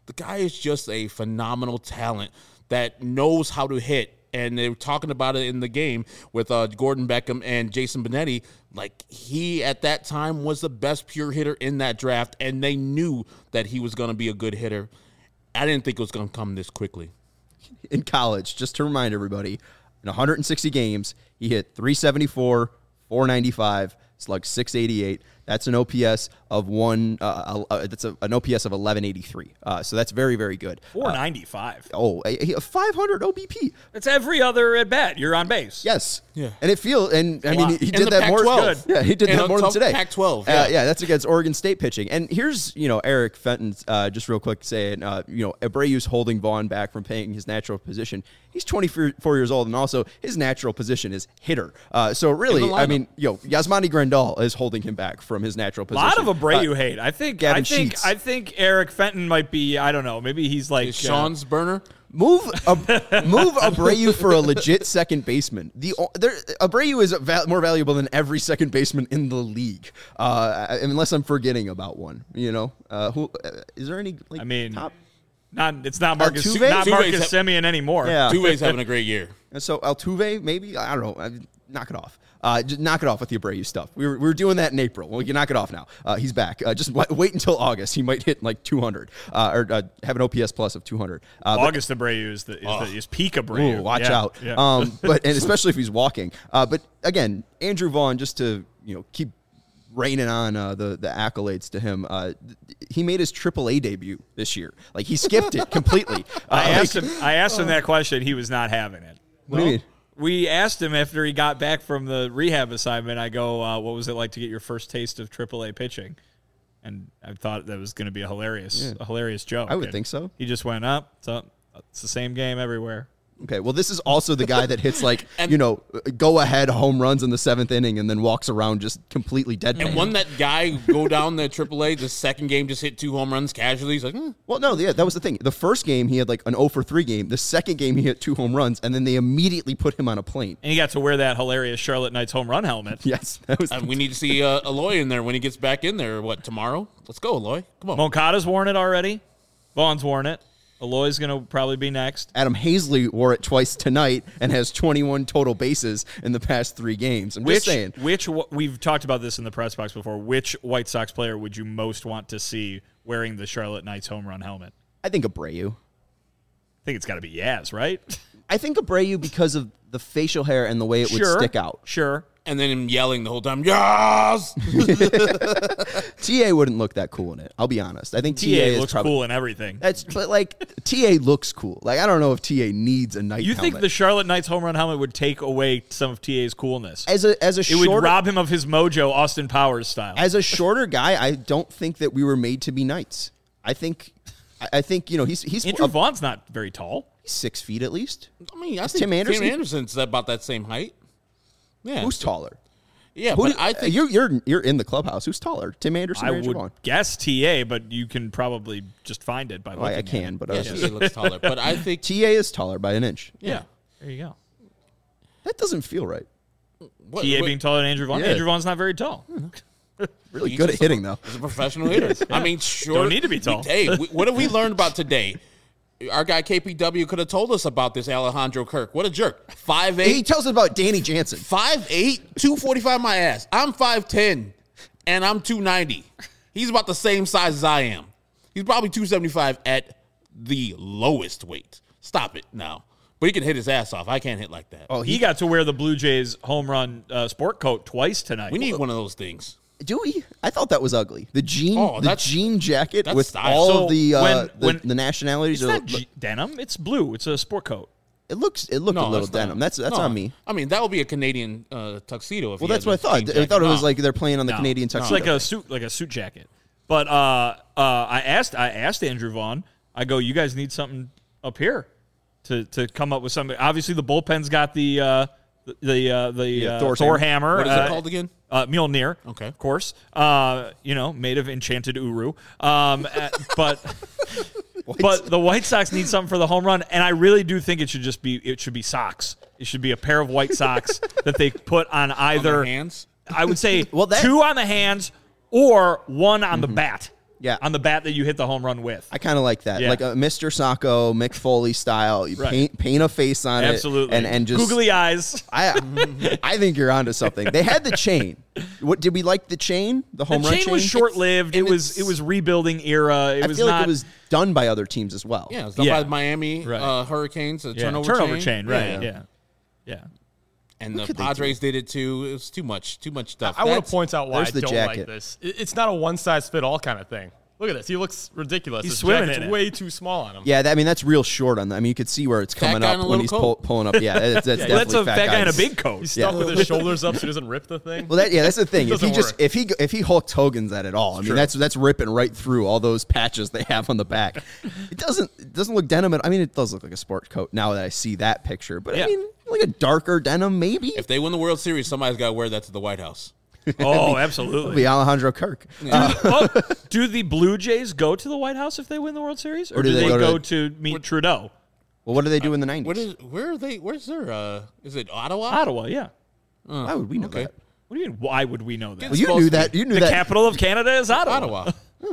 The guy is just a phenomenal talent that knows how to hit. And they were talking about it in the game with uh, Gordon Beckham and Jason Benetti. Like, he, at that time, was the best pure hitter in that draft, and they knew that he was going to be a good hitter. I didn't think it was going to come this quickly. In college, just to remind everybody, in one hundred sixty games, he hit three seventy-four, four ninety-five, slugged six eighty-eight. That's an O P S of one. Uh, uh, that's a, an O P S of eleven eighty-three. Uh, so that's very, very good. four ninety-five. Uh, oh, a, a five hundred O B P. That's every other at bat. You're on base. Yes. Yeah. And it feels. And I mean, he, he did that Pac more. twelve. Yeah, he did And that more than today. Pac twelve. Yeah. Yeah. Uh, yeah, that's against Oregon State pitching. And here's, you know, Eric Fenton. Uh, just real quick saying, uh, you know, Abreu's holding Vaughn back from playing his natural position. He's twenty-four years old, and also his natural position is hitter. Uh, so really, I mean, you know, Yasmani Grandal is holding him back from his natural position. A lot of Abreu Uh, hate. I think. Gavin I think. Sheets. I think Eric Fenton might be. I don't know. Maybe he's like Is Sean's uh, burner? Move Ab- move Abreu for a legit second baseman. The there, Abreu is val- more valuable than every second baseman in the league, uh, unless I'm forgetting about one. You know, uh, who uh, is there any? Like, I mean, top? not. It's not Marcus. Altuve? Not Altuve's Marcus ha- Semien anymore. Yeah. Two-Way's having a great year. And so Altuve, maybe I don't know. I, knock it off. Uh, just knock it off with the Abreu stuff. We were, we were doing that in April. Well, you knock it off now. Uh, he's back. Uh, just w- wait until August. He might hit like two hundred uh, or uh, have an O P S plus of two hundred. Uh, but- August Abreu is the is, Oh. the, is peak Abreu. Ooh, watch Yeah, out. yeah. Um, but and especially if he's walking. Uh, but again, Andrew Vaughn, just to you know keep raining on uh, the the accolades to him. Uh, th- he made his triple A debut this year. Like he skipped it completely. Uh, I like- asked him. I asked him that question. He was not having it. What do you mean? We asked him after he got back from the rehab assignment. I go, uh, "What was it like to get your first taste of triple A pitching?" And I thought that was going to be a hilarious, Yeah. a hilarious joke. I would And think so. He just went up. So it's the same game everywhere. Okay, well, this is also the guy that hits like you know go ahead home runs in the seventh inning and then walks around just completely dead. And when that guy go down the triple A, the second game just hit two home runs casually. He's like, hmm. Well, no, yeah, that was the thing. The first game he had like an oh for three game. The second game he hit two home runs, and then they immediately put him on a plane. And he got to wear that hilarious Charlotte Knights home run helmet. Yes, that was. Uh, we need to see uh, Eloy in there when he gets back in there. What, tomorrow? Let's go, Eloy. Come on. Moncada's worn it already. Vaughn's worn it. Eloy's going to probably be next. Adam Hazley wore it twice tonight and has twenty-one total bases in the past three games. I'm Which, just saying. which we've talked about this in the press box before. Which White Sox player would you most want to see wearing the Charlotte Knights home run helmet? I think Abreu. I think it's got to be Yaz, right? I think Abreu because of the facial hair and the way it would Sure. stick out. Sure. And then him yelling the whole time, yes! T A wouldn't look that cool in it. I'll be honest. I think T A, T A is looks probably, cool in everything. That's but like T A looks cool. Like I don't know if T A needs a night. You think helmet. the Charlotte Knights home run helmet would take away some of T A's coolness? as a as a It shorter would rob him of his mojo, Austin Powers style. as a shorter guy, I don't think that we were made to be knights. I think I, I think you know he's he's Andrew a- Vaughn's not very tall. six feet at least. I mean, I Is think Tim Anderson? Tim Anderson's about that same height. Yeah. Who's taller? Yeah, Who but do- I think you're you're you're in the clubhouse. Who's taller, Tim Anderson I or Andrew would Vaughn? guess T A, but you can probably just find it by looking Well, I at can, it. but I yeah, was T A just, looks taller. But I think T A is taller by an inch. Yeah. There you go. That doesn't feel right. what, T A what- being taller than Andrew Vaughn. Yeah. Andrew Vaughn's not very tall. Really He's good at just a- hitting though. He's a professional hitter. I mean, sure. Don't need to be tall. Hey, we, what have we learned about today? Our guy K P W could have told us about this Alejandro Kirk. What a jerk. five He eight, tells us about Danny Jansen. five eight, two forty-five my ass. I'm five ten, and I'm two ninety. He's about the same size as I am. He's probably two seventy-five at the lowest weight. Stop it now. But he can hit his ass off. I can't hit like that. Oh, He got to wear the Blue Jays home run uh, sport coat twice tonight. We need one of those things. Do we? I thought that was ugly. The jean, Oh, the that's- jean jacket that's with style. all So of the uh, when- the, when- the nationalities. It's are- not G- denim. It's blue. It's a sport coat. it looks it looked a No, little that's not- denim. That's that's no. on me. I mean, that would be a Canadian uh, tuxedo. If Well, he that's had what I the thought. jean I jacket. thought it was No. like they're playing on the No. Canadian It's tuxedo. like a suit, like a suit jacket. But uh, uh, I asked, I asked Andrew Vaughn. I go, you guys need something up here to to come up with something. Obviously, the bullpen's got the uh, the the, uh, the Yeah, uh, Thor's Thor hammer. hammer. What is uh, it called again? Uh, Mjolnir, Okay. of course. Uh, you know, made of enchanted Uru. Um, uh, but but the White Sox need something for the home run, and I really do think it should just be it should be socks. It should be a pair of white socks that they put on On either. their hands. I would say Well, that- two on the hands or one on Mm-hmm. the bat. Yeah. on the bat that you hit the home run with. I kind of like that, Yeah. like a Mister Sacco, Mick Foley style. You Right. paint paint a face on Absolutely. it, and and just googly eyes. I I think you're onto something. They had the chain. What did we like the chain? The home The run chain chain was short lived. It and was it's- it was rebuilding era. It I was feel not like it was done by other teams as well. Yeah, it's done Yeah. by Miami Right. uh, Hurricanes, a yeah, turnover, turnover chain. chain. Right. Yeah. Yeah. Yeah. And the could they Padres did it too. It was too much, too much stuff. I want That's- to point out why I there's the don't jacket. like this. It- It's not a one-size-fit-all kind of thing. Look at this. He looks ridiculous. He's His swimming jacket's in it. way too small on him. Yeah, that, I mean that's real short on that. I mean you could see where it's Fat coming guy in up a when little he's coat. pull, pulling up. Yeah, that's, that's Well, definitely that's a fat guy in a guys. big coat. He's stuck Yeah. with his shoulders up so he doesn't rip the thing. Well, that yeah, that's the thing. If he Doesn't just work. if he if he Hulk Hogan's that at all, I mean true. that's that's ripping right through all those patches they have on the back. It doesn't it doesn't look denim. At, I mean, it does look like a sport coat now that I see that picture. But Yeah. I mean, like a darker denim maybe. If they win the World Series, somebody's got to wear that to the White House. Oh, It'll absolutely. be Alejandro Kirk. Uh, Oh, do the Blue Jays go to the White House if they win the World Series, or, Or do do they they, go go, to- to, meet Trudeau? well, what do they do in the nineties? What is? Where are they? Where's their? Uh, is it Ottawa? Ottawa, yeah. Why would we know okay. that? What do you mean? Why would we know that? Well, you supposed knew to be. that. You knew the that. capital of Canada is Ottawa. Ottawa.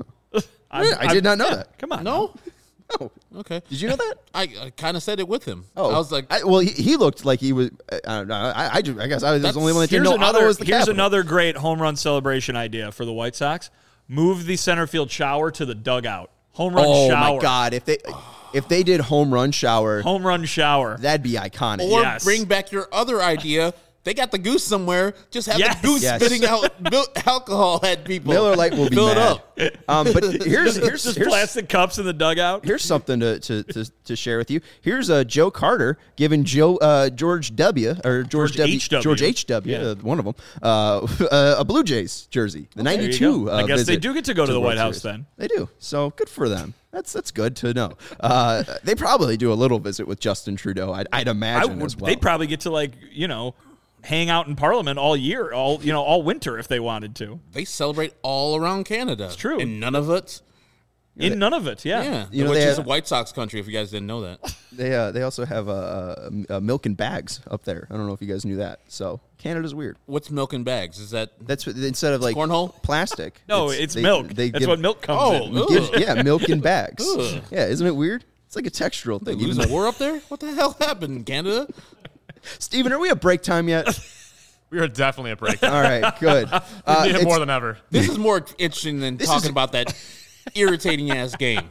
I'm- I did not know yeah, that. Come on. No. Oh, Okay. did you know that? I, I kind of said it with him. Oh, I was like, I, well, he, he looked like he was. I don't know. I, I, ju- I guess I was the That's- only one that didn't Here's know Ottawa another. was the Here's capital. another great home run celebration idea for the White Sox. Move the center field shower to the dugout. Home run Oh shower. my God! If they if they did home run shower, Home run shower. that'd be iconic. or Yes. bring back your other idea. They got the goose somewhere. Just have Yes. the goose Yes. spitting out mil- alcohol at people. Miller Lite will be Fill mad. it up. Um, but here's here's Just here's, plastic cups in the dugout. here's something to, to, to, to share with you. Here's uh, Joe Carter giving Joe uh, George W. or George, George W. H W. George H W. Yeah. Uh, one of them uh, uh, a Blue Jays jersey, the There you ninety-two. go. Uh, I guess they visit do get to go to the World White House Series. then. They do. So good for them. That's that's good to know. Uh, they probably do a little visit with Justin Trudeau. I'd, I'd I imagine would, as well. They'd probably get to like you know hang out in Parliament all year, all you know, all winter if they wanted to. They celebrate all around Canada. It's true. And none of it. In none of it, yeah. Yeah. You know, which they is have- a White Sox country, if you guys didn't know that. They uh, they also have uh, uh, milk in bags up there. I don't know if you guys knew that. So Canada's weird. What's milk in bags? Is that That's what, instead of like cornhole? plastic. No, it's, they- milk. They That's give- what milk comes Oh, in. ugh. gives- yeah, milk in bags. Ugh. Yeah, isn't it weird? It's like a textural thing. lose Even a war up there? What the hell happened in Canada? Steven, are we at break time yet? We are definitely at break. All right, good. Uh, We need it it's- more than ever. This is more interesting than This talking is- about that irritating ass game.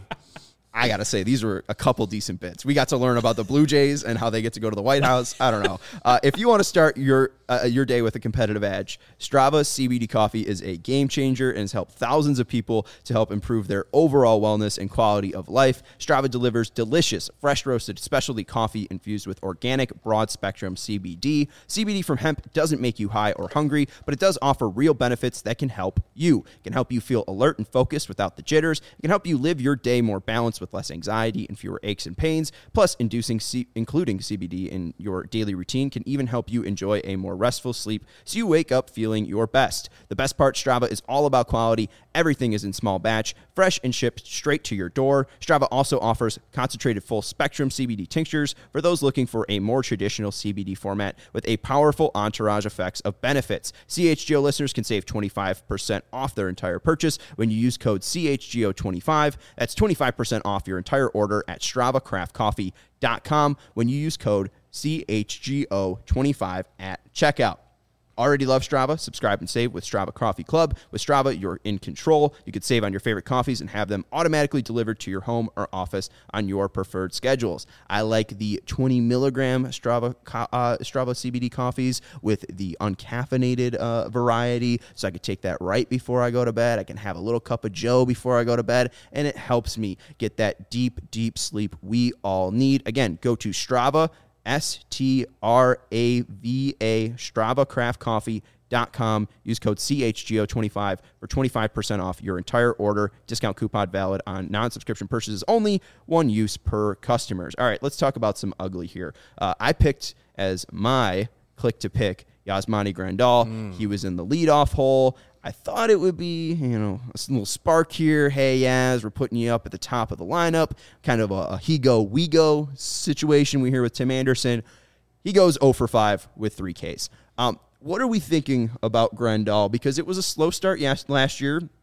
I gotta say, these were a couple decent bits. We got to learn about the Blue Jays and how they get to go to the White House. I don't know. Uh, if you want to start your uh, your day with a competitive edge, Strava C B D coffee is a game changer and has helped thousands of people to help improve their overall wellness and quality of life. Strava delivers delicious, fresh roasted specialty coffee infused with organic, broad spectrum C B D. C B D from hemp doesn't make you high or hungry, but it does offer real benefits that can help you. It can help you feel alert and focused without the jitters. It can help you live your day more balanced with less anxiety and fewer aches and pains. Plus, inducing C- including C B D in your daily routine can even help you enjoy a more restful sleep so you wake up feeling your best. The best part, Strava is all about quality. Everything is in small batch, fresh and shipped straight to your door. Strava also offers concentrated full spectrum C B D tinctures for those looking for a more traditional C B D format with a powerful entourage effects of benefits. C H G O listeners can save twenty-five percent off their entire purchase when you use code C H G O twenty-five. That's twenty-five percent off your entire order at strava craft coffee dot com when you use code C H G O twenty-five at checkout. Already love Strava? Subscribe and save with Strava Coffee Club. With Strava, you're in control. You could save on your favorite coffees and have them automatically delivered to your home or office on your preferred schedules. I like the twenty milligram Strava co- uh, Strava C B D coffees with the uncaffeinated uh, variety, so I could take that right before I go to bed. I can have a little cup of Joe before I go to bed, and it helps me get that deep, deep sleep we all need. Again, go to Strava, S T R A V A, strava craft coffee dot com. Use code C H G O twenty-five for twenty-five percent off your entire order. Discount coupon valid on non-subscription purchases only. One use per customers. All right, let's talk about some ugly here. Uh, I picked as my click to pick Yasmani Grandal. Mm. He was in the leadoff hole. I thought it would be, you know, a little spark here. Hey, Yaz, we're putting you up at the top of the lineup. Kind of a, a he go, we go situation we hear with Tim Anderson. He goes oh for five with three Ks. Um, what are we thinking about Grandal? Because it was a slow start yes, last year.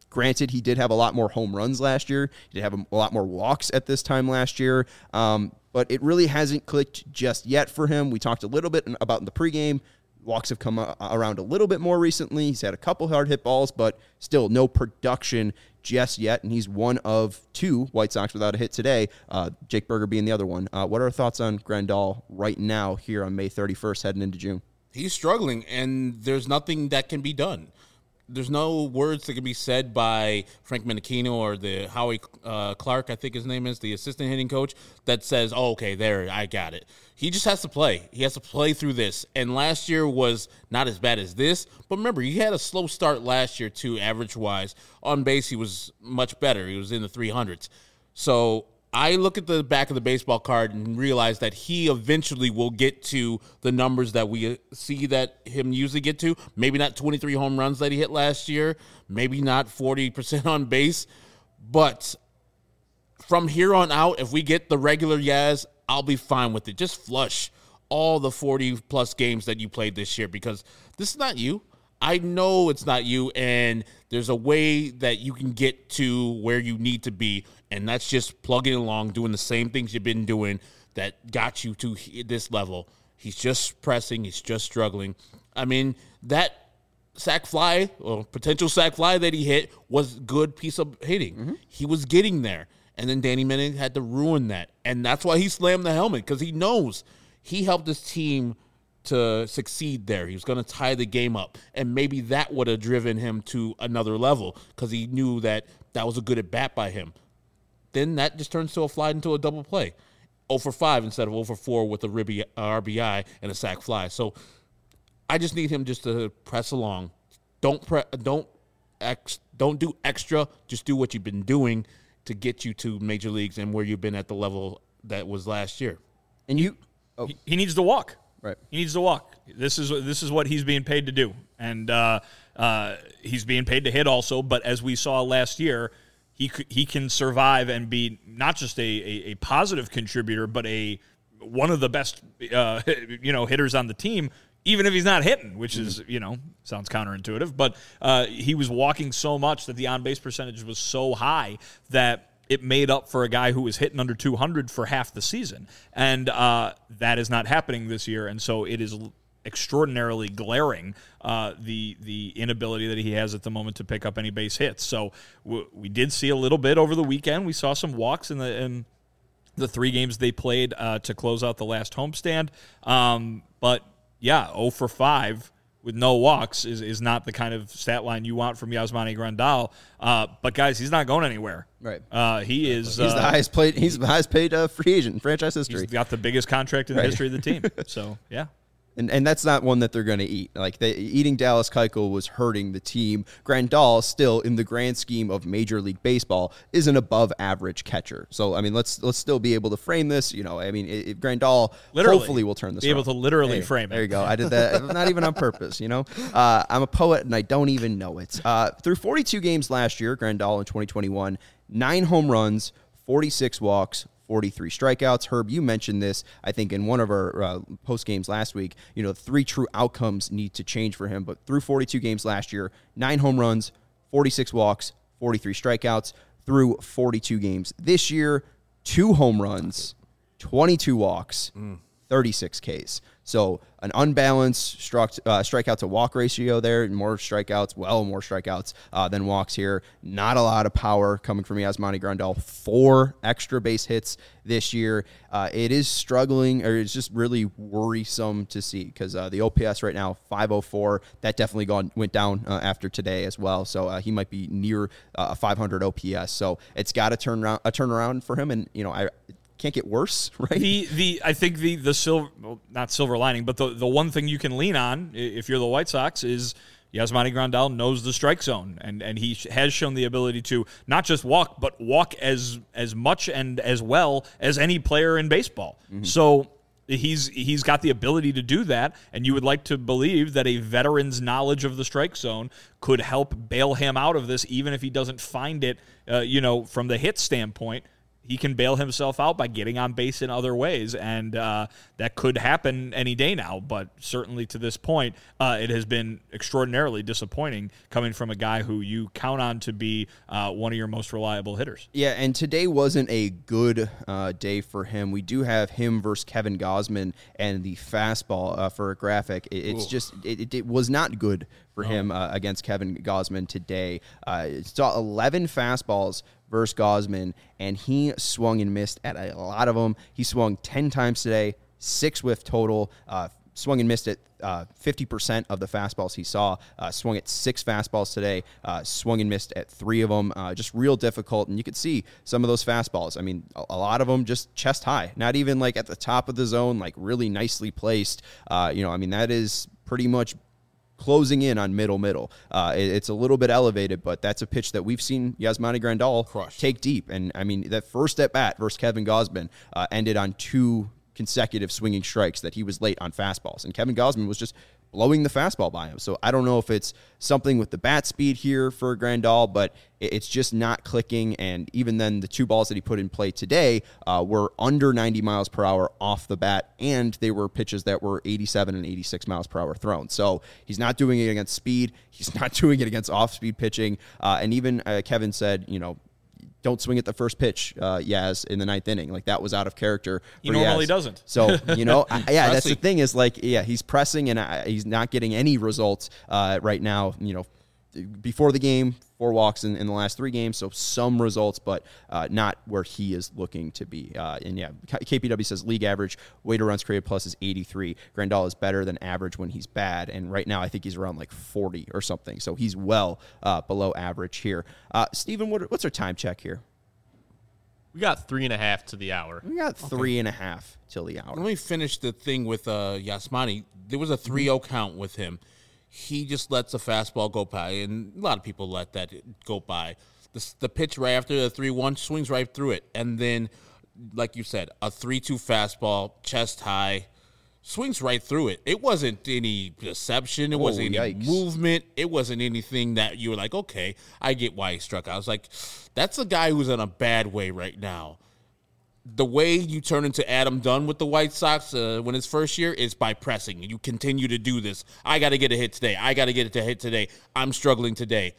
Granted, he did have a lot more home runs last year. He did have a, a lot more walks at this time last year. Um, but it really hasn't clicked just yet for him. We talked a little bit about in the pregame. Walks have come around a little bit more recently. He's had a couple hard hit balls, but still no production just yet. And he's one of two White Sox without a hit today, uh, Jake Burger being the other one. Uh, what are our thoughts on Grandal right now here on May thirty-first heading into June? He's struggling, and there's nothing that can be done. There's no words that can be said by Frank Menechino or the Howie uh, Clark, I think his name is, the assistant hitting coach, that says, oh, okay, there, I got it. He just has to play. He has to play through this. And last year was not as bad as this. But remember, he had a slow start last year, too, average-wise. On base, he was much better. He was in the three hundreds. So I look at the back of the baseball card and realize that he eventually will get to the numbers that we see that him usually get to. Maybe not twenty-three home runs that he hit last year. Maybe not forty percent on base. But from here on out, if we get the regular Yaz, I'll be fine with it. Just flush all the forty-plus games that you played this year because this is not you. I know it's not you, and there's a way that you can get to where you need to be, and that's just plugging along, doing the same things you've been doing that got you to this level. He's just pressing. He's just struggling. I mean, that sac fly or potential sac fly that he hit was a good piece of hitting. Mm-hmm. He was getting there, and then Danny Menning had to ruin that, and that's why he slammed the helmet because he knows he helped his team to succeed there. He was going to tie the game up, and maybe that would have driven him to another level because he knew that that was a good at-bat by him. Then that just turns to a fly into a double play. oh for five instead of oh for four with a ribby R B I and a sac fly. So I just need him just to press along. Don't pre- don't ex- don't do extra. Just do what you've been doing to get you to major leagues and where you've been at the level that was last year. And you, oh. he, he needs to walk. Right. He needs to walk. This is this is what he's being paid to do, and uh, uh, he's being paid to hit also. But as we saw last year, he he can survive and be not just a, a, a positive contributor, but a one of the best uh, you know hitters on the team, even if he's not hitting, which is you know sounds counterintuitive. But uh, he was walking so much that the on base percentage was so high that it made up for a guy who was hitting under two hundred for half the season. And uh, that is not happening this year. And so it is extraordinarily glaring, uh, the the inability that he has at the moment to pick up any base hits. So w- we did see a little bit over the weekend. We saw some walks in the in the three games they played uh, to close out the last homestand. Um, but, yeah, oh for five with no walks is, is not the kind of stat line you want from Yasmani Grandal. Uh, but guys, he's not going anywhere. Right. Uh, he is. He's uh, the highest paid. He's the highest paid uh, free agent in franchise history. He's got the biggest contract in the right. history of the team. So yeah. And and that's not one that they're going to eat. Like they, eating Dallas Keuchel was hurting the team. Grandal, still in the grand scheme of Major League Baseball, is an above average catcher. So I mean, let's let's still be able to frame this. You know, I mean, it, Grandal literally, hopefully will turn this. Be around. able to literally hey, frame it. There you go. I did that, not even on purpose. You know, uh, I'm a poet and I don't even know it. Uh, through forty-two games last year, Grandal in twenty twenty-one, nine home runs, forty-six walks, forty-three strikeouts. Herb, you mentioned this, I think, in one of our uh, post games last week. You know, three true outcomes need to change for him. But through forty-two games last year, nine home runs, forty-six walks, forty-three strikeouts. Through forty-two games this year, two home runs, twenty-two walks, mm. thirty-six Ks. So an unbalanced struck, uh, strikeout to walk ratio there, more strikeouts, well, more strikeouts uh, than walks here. Not a lot of power coming from Yasmani Grandal. Four extra base hits this year. Uh, it is struggling, or it's just really worrisome to see because uh, the O P S right now, five oh four. That definitely gone went down uh, after today as well. So uh, he might be near uh, a five hundred O P S. So it's got to turn around, a turnaround for him. And, you know, I can't get worse, right? The the I think the the silver well, not silver lining, but the the one thing you can lean on if you're the White Sox is Yasmani Grandal knows the strike zone, and and he has shown the ability to not just walk, but walk as as much and as well as any player in baseball. Mm-hmm. So he's he's got the ability to do that, and you would like to believe that a veteran's knowledge of the strike zone could help bail him out of this, even if he doesn't find it, uh, you know, from the hit standpoint. he can bail himself out by getting on base in other ways, and uh, that could happen any day now. But certainly to this point, uh, it has been extraordinarily disappointing coming from a guy who you count on to be uh, one of your most reliable hitters. Yeah, and today wasn't a good uh, day for him. We do have him versus Kevin Gausman and the fastball uh, for a graphic. It, it's Ooh. just it, it, it was not good for no. him uh, against Kevin Gausman today. Uh, saw eleven fastballs versus Gausman, and he swung and missed at a lot of them. He swung ten times today, six whiff total, uh, swung and missed at uh, fifty percent of the fastballs he saw, uh, swung at six fastballs today, uh, swung and missed at three of them, uh, just real difficult. And you could see some of those fastballs. I mean, a, a lot of them just chest high, not even like at the top of the zone, like really nicely placed. Uh, you know, I mean, that is pretty much closing in on middle middle. Uh, it, it's a little bit elevated, but that's a pitch that we've seen Yasmani Grandal Crush. take deep. And I mean, that first at bat versus Kevin Gausman uh, ended on two consecutive swinging strikes that he was late on fastballs. And Kevin Gausman was just blowing the fastball by him. So I don't know if it's something with the bat speed here for Grandal, but it's just not clicking. And even then, the two balls that he put in play today uh, were under ninety miles per hour off the bat, and they were pitches that were eighty-seven and eighty-six miles per hour thrown. So he's not doing it against speed. He's not doing it against off-speed pitching. Uh, and even uh, Kevin said, you know, don't swing at the first pitch, uh, Yaz, in the ninth inning. Like, that was out of character. He normally Yaz. doesn't. So, you know, I, yeah, that's the thing is, like, yeah, he's pressing, and I, he's not getting any results uh, right now, you know, before the game, four walks in, in the last three games, so some results, but uh, not where he is looking to be. Uh, and, yeah, K P W says league average, weighted runs created plus is eighty-three. Grandal is better than average when he's bad, and right now I think he's around, like, forty or something, so he's well uh, below average here. Uh, Steven, what, what's our time check here? We got three and a half to the hour. We got three okay. and a half till the hour. Let me finish the thing with uh, Yasmani. There was a three oh count with him. He just lets a fastball go by, and a lot of people let that go by. The, the pitch right after the three one swings right through it. And then, like you said, a three two fastball, chest high, swings right through it. It wasn't any deception. It oh, wasn't any yikes. movement. It wasn't anything that you were like, okay, I get why he struck out. I was like, that's a guy who's in a bad way right now. The way you turn into Adam Dunn with the White Sox uh, when his first year is by pressing. You continue to do this. I got to get a hit today. I got to get it to hit today. I'm struggling today.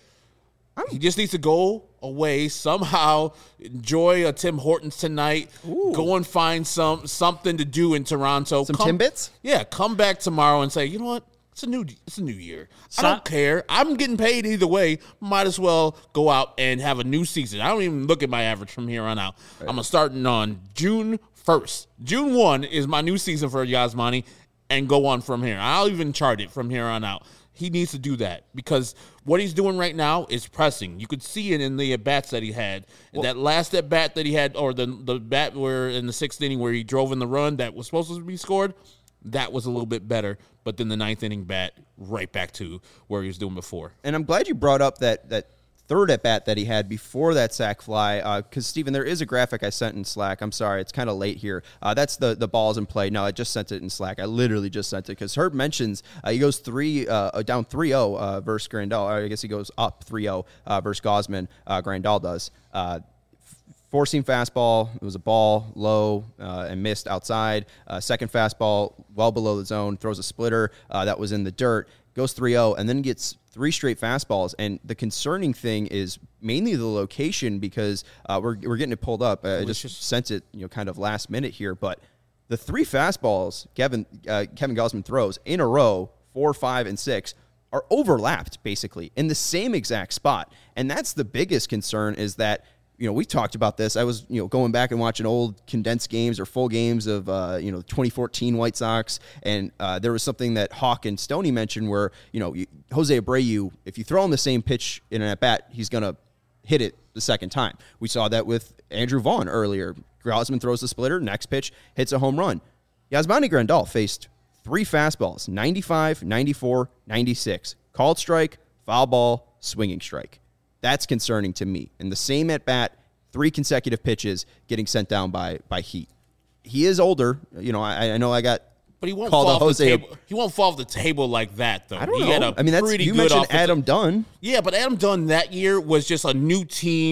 He just needs to go away somehow. Enjoy a Tim Hortons tonight. Ooh. Go and find some something to do in Toronto. Some come, Timbits? Yeah, come back tomorrow and say, you know what? It's a new it's a new year. So, I don't care. I'm getting paid either way. Might as well go out and have a new season. I don't even look at my average from here on out. Right. I'm starting on June first. June first is my new season for Yasmani, and go on from here. I'll even chart it from here on out. He needs to do that because what he's doing right now is pressing. You could see it in the at-bats that he had. Well, that last at-bat that he had, or the the bat where in the sixth inning where he drove in the run that was supposed to be scored, that was a little bit better. But then the ninth inning bat, right back to where he was doing before. And I'm glad you brought up that that third at bat that he had before that sac fly, because uh, Steven, there is a graphic I sent in Slack. I'm sorry, it's kind of late here. Uh, that's the the balls in play. No, I just sent it in Slack. I literally just sent it because Herb mentions uh, he goes three uh, down three oh uh, versus Grandal. Or I guess he goes up three oh uh, versus Gausman. Uh, Grandal does. Uh, Four-seam fastball, it was a ball, low, uh, and missed outside. Uh, second fastball, well below the zone, throws a splitter uh, that was in the dirt, goes three oh, and then gets three straight fastballs. And the concerning thing is mainly the location because uh, we're we're getting it pulled up. Uh, I just sent it, you know, kind of last minute here, but the three fastballs Kevin uh, Kevin Gausman throws in a row, four, five, and six, are overlapped basically in the same exact spot. And that's the biggest concern is that, you know, we talked about this. I was, you know, going back and watching old condensed games or full games of, uh, you know, twenty fourteen White Sox. And uh, there was something that Hawk and Stoney mentioned where, you know, Jose Abreu, if you throw him the same pitch in an at-bat, he's going to hit it the second time. We saw that with Andrew Vaughn earlier. Gausman throws the splitter, next pitch, hits a home run. Yasmani Grandal faced three fastballs, ninety-five, ninety-four, ninety-six. Called strike, foul ball, swinging strike. That's concerning to me. And the same at bat, three consecutive pitches getting sent down by by Heat. He is older. You know, I, I know I got but he won't called fall off Jose. the table. He won't fall off the table like that, though. I don't he know. Had a I mean, that's pretty you good mentioned offensive- Adam Dunn. Yeah, but Adam Dunn that year was just a new team.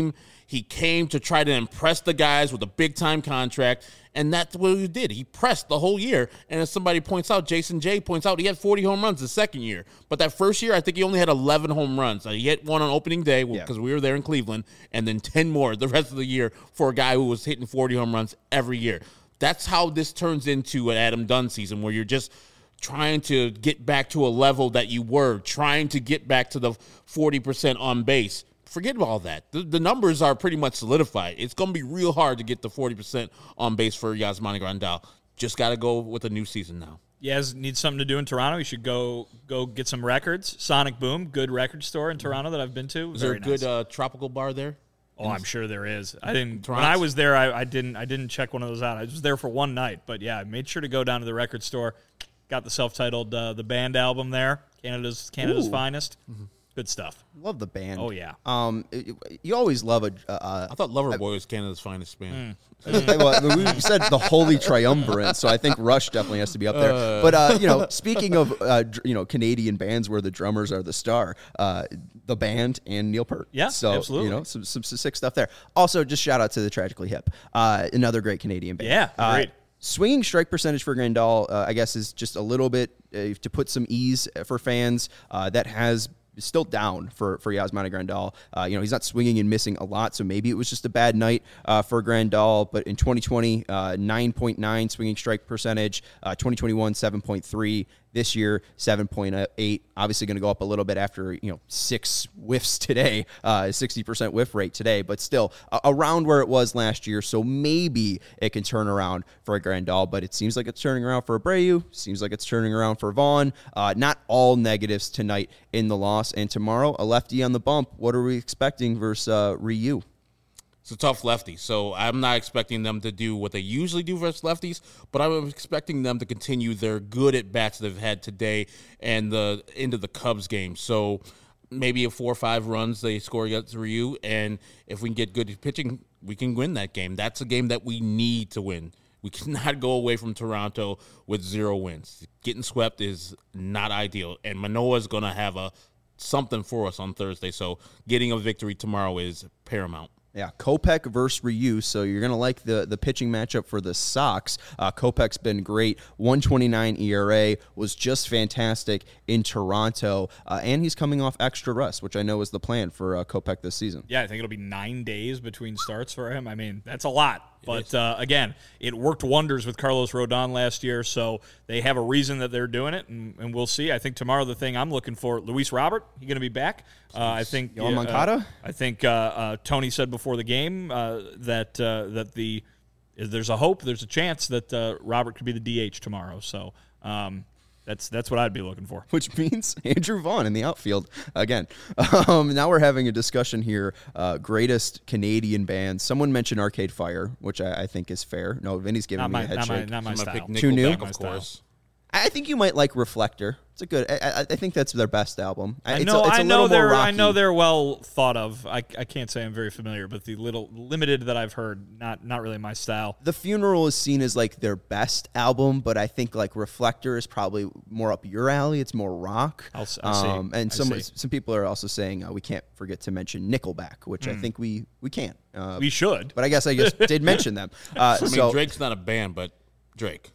He came to try to impress the guys with a big-time contract, and that's what he did. He pressed the whole year, and as somebody points out, Jason Jay points out, he had forty home runs the second year. But that first year, I think he only had eleven home runs. He hit one on opening day because Yeah. we were there in Cleveland, and then ten more the rest of the year for a guy who was hitting forty home runs every year. That's how this turns into an Adam Dunn season, where you're just trying to get back to a level that you were, trying to get back to the forty percent on base. Forget all that. The, the numbers are pretty much solidified. It's going to be real hard to get the forty percent on base for Yasmani Grandal. Just got to go with a new season now. Yaz needs something to do in Toronto. You should go go get some records. Sonic Boom, good record store in Toronto that I've been to. Is Very there a good nice. uh, tropical bar there? Oh, I'm sure there is. I didn't. Toronto? When I was there, I, I didn't. I didn't check one of those out. I was there for one night, but yeah, I made sure to go down to the record store. Got the self-titled uh, the band album there. Canada's Canada's Ooh. finest. Good stuff. Love the band. Oh, yeah. Um, it- it- you always love a. Uh, I thought Loverboy was Canada's finest band. well, we said the Holy Triumvirate, so I think Rush definitely has to be up there. Uh. But uh, you know, speaking of uh, dr- you know Canadian bands where the drummers are the star, uh, the band and Neil Peart. Yeah, so absolutely. you know some, some sick stuff there. Also, just shout out to the Tragically Hip, uh, another great Canadian band. Yeah, Uh, great. Swinging strike percentage for Grandal, uh, I guess, is just a little bit uh, to put some ease for fans. Uh, that has still down for for Yasmani Grandal. Uh, you know, he's not swinging and missing a lot, so maybe it was just a bad night uh, for Grandal. But in twenty twenty, uh, nine point nine swinging strike percentage. Uh, twenty twenty-one, seven point three. This year, seven point eight. Obviously going to go up a little bit after, you know, six whiffs today, uh, sixty percent whiff rate today, but still uh, around where it was last year. So maybe it can turn around for a Grandal, but it seems like it's turning around for Abreu. Seems like it's turning around for Vaughn. Uh, not all negatives tonight in the loss. And tomorrow, a lefty on the bump. What are we expecting versus uh, Ryu? It's a tough lefty, so I'm not expecting them to do what they usually do versus lefties, but I'm expecting them to continue their good at-bats they've had today and the into the Cubs game. So maybe a four or five runs they score against Ryu, and if we can get good pitching, we can win that game. That's a game that we need to win. We cannot go away from Toronto with zero wins. Getting swept is not ideal, and Manoah's going to have a something for us on Thursday, so getting a victory tomorrow is paramount. Yeah, Kopech versus Ryu, so you're going to like the, the pitching matchup for the Sox. Uh, Kopech's been great. one twenty-nine E R A, was just fantastic in Toronto, uh, and he's coming off extra rest, which I know is the plan for uh, Kopech this season. Yeah, I think it'll be nine days between starts for him. I mean, that's a lot. But, uh, again, it worked wonders with Carlos Rodon last year, so they have a reason that they're doing it, and, and we'll see. I think tomorrow the thing I'm looking for, Luis Robert, he's going to be back. Uh, I think Yohan uh, Moncada? I think uh, uh, Tony said before the game uh, that uh, that the there's a hope, there's a chance that uh, Robert could be the D H tomorrow. So um, that's that's what I'd be looking for. Which means Andrew Vaughn in the outfield again. Um, now we're having a discussion here. Uh, greatest Canadian bands. Someone mentioned Arcade Fire, which I, I think is fair. No, Vinny's giving Not me my, a head not my, shake. not my I'm gonna style. pick Too new? Nickelback, My of style. course. I think you might like Reflector. It's a good. I, I think that's their best album. I It's know, a, it's a I know little more they're, I rocky. know they're well thought of. I, I can't say I'm very familiar, but the little limited that I've heard, not, not really my style. The Funeral is seen as like their best album, but I think like Reflector is probably more up your alley. It's more rock. I'll s- I see. Um, and I some see. some people are also saying uh, we can't forget to mention Nickelback, which I think we we can't. Uh, We should. but I guess I just did mention them. Uh, I mean, so Drake's not a band, but Drake.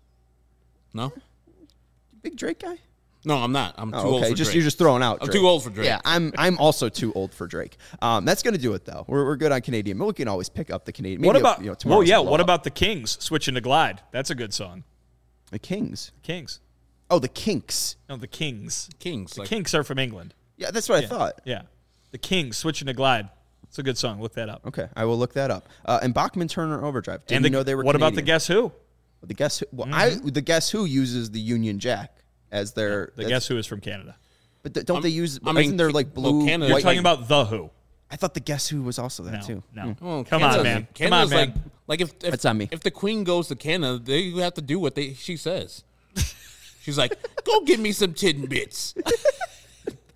No? big Drake guy. No, I'm not. I'm too Oh, old okay, for just Drake. you're just throwing out. I'm Drake. too old for Drake. Yeah, I'm I'm also too old for Drake. Um, that's gonna do it though. We're, we're good on Canadian. But we can always pick up the Canadian. What Maybe, about, you know, well, tomorrow's yeah, blow what up. about the Kings switching to Glide? That's a good song. the Kings? Kings. Oh, the Kinks. No, the Kings. Kings. The Like, Kinks are from England. Yeah, that's what I Yeah. thought. Yeah. The Kings switching to Glide. It's a good song. Look that up. Okay, I will look that up. Uh, and Bachman Turner Overdrive. Didn't and the, know they were. what about the Canadian. Guess Who? The Guess Who? Well, I the Guess Who uses the Union Jack as their. The that's- Guess Who is from Canada. But th- don't they use? I mean, isn't there like well, blue? Canada- You're white, talking about The Who. I thought the Guess Who was also that No, too. no. well, Come Canada's- on, man. Come on, Canada's man. Like, like if, if That's on me. If the Queen goes to Canada, they have to do what they she says. She's like, "Go get me some tidbits."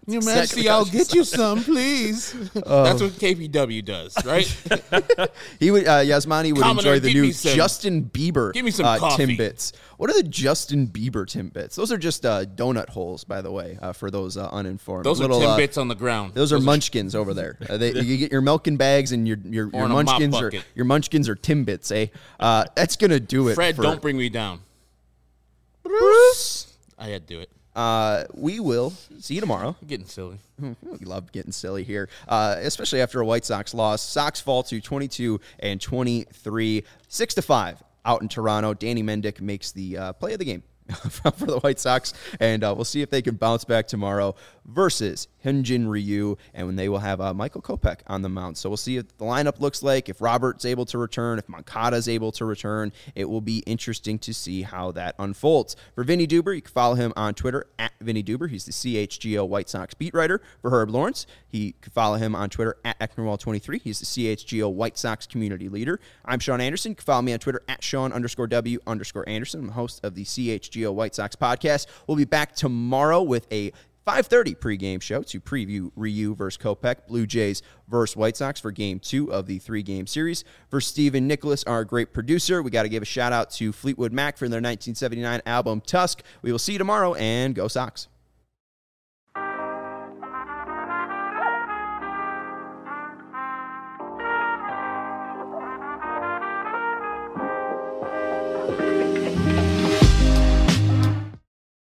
Your Majesty, I'll get you some, please. That's what K P W does, right? He would uh, Yasmani would Commodore, enjoy the give new me some- Justin Bieber give me some uh, coffee. Timbits. What are the Justin Bieber Timbits? Those are just uh, donut holes, by the way, uh, for those uh, uninformed. Those Little, are uh, Timbits on the ground. Those are munchkins over there. Uh, they, you get your milking bags and your your, your in a mop munchkins are bucket. your munchkins are Timbits, eh? Uh, that's gonna do it. Fred, for, don't bring me down. Bruce. I had to do it. Uh, we will see you tomorrow. I'm getting silly. We love getting silly here, uh, especially after a White Sox loss. Sox fall to twenty-two and twenty-three, six to five out in Toronto. Danny Mendick makes the uh, play of the game for the White Sox, and uh, we'll see if they can bounce back tomorrow versus Hyunjin Ryu, and when they will have uh, Michael Kopech on the mound. So we'll see what the lineup looks like, if Robert's able to return, if Moncada's able to return. It will be interesting to see how that unfolds. For Vinny Duber, you can follow him on Twitter at Vinny Duber. He's the C H G O White Sox beat writer. For Herb Lawrence, he can follow him on Twitter at Ecknerwall twenty-three. He's the C H G O White Sox community leader. I'm Sean Anderson. You can follow me on Twitter at Sean underscore W underscore Anderson. I'm the host of the C H G O White Sox podcast. We'll be back tomorrow with a five thirty pregame show to preview Ryu versus Kopech, Blue Jays versus White Sox for game two of the three-game series. For Stephen Nicholas, our great producer, we got to give a shout-out to Fleetwood Mac for their nineteen seventy-nine album Tusk. We will see you tomorrow, and go Sox.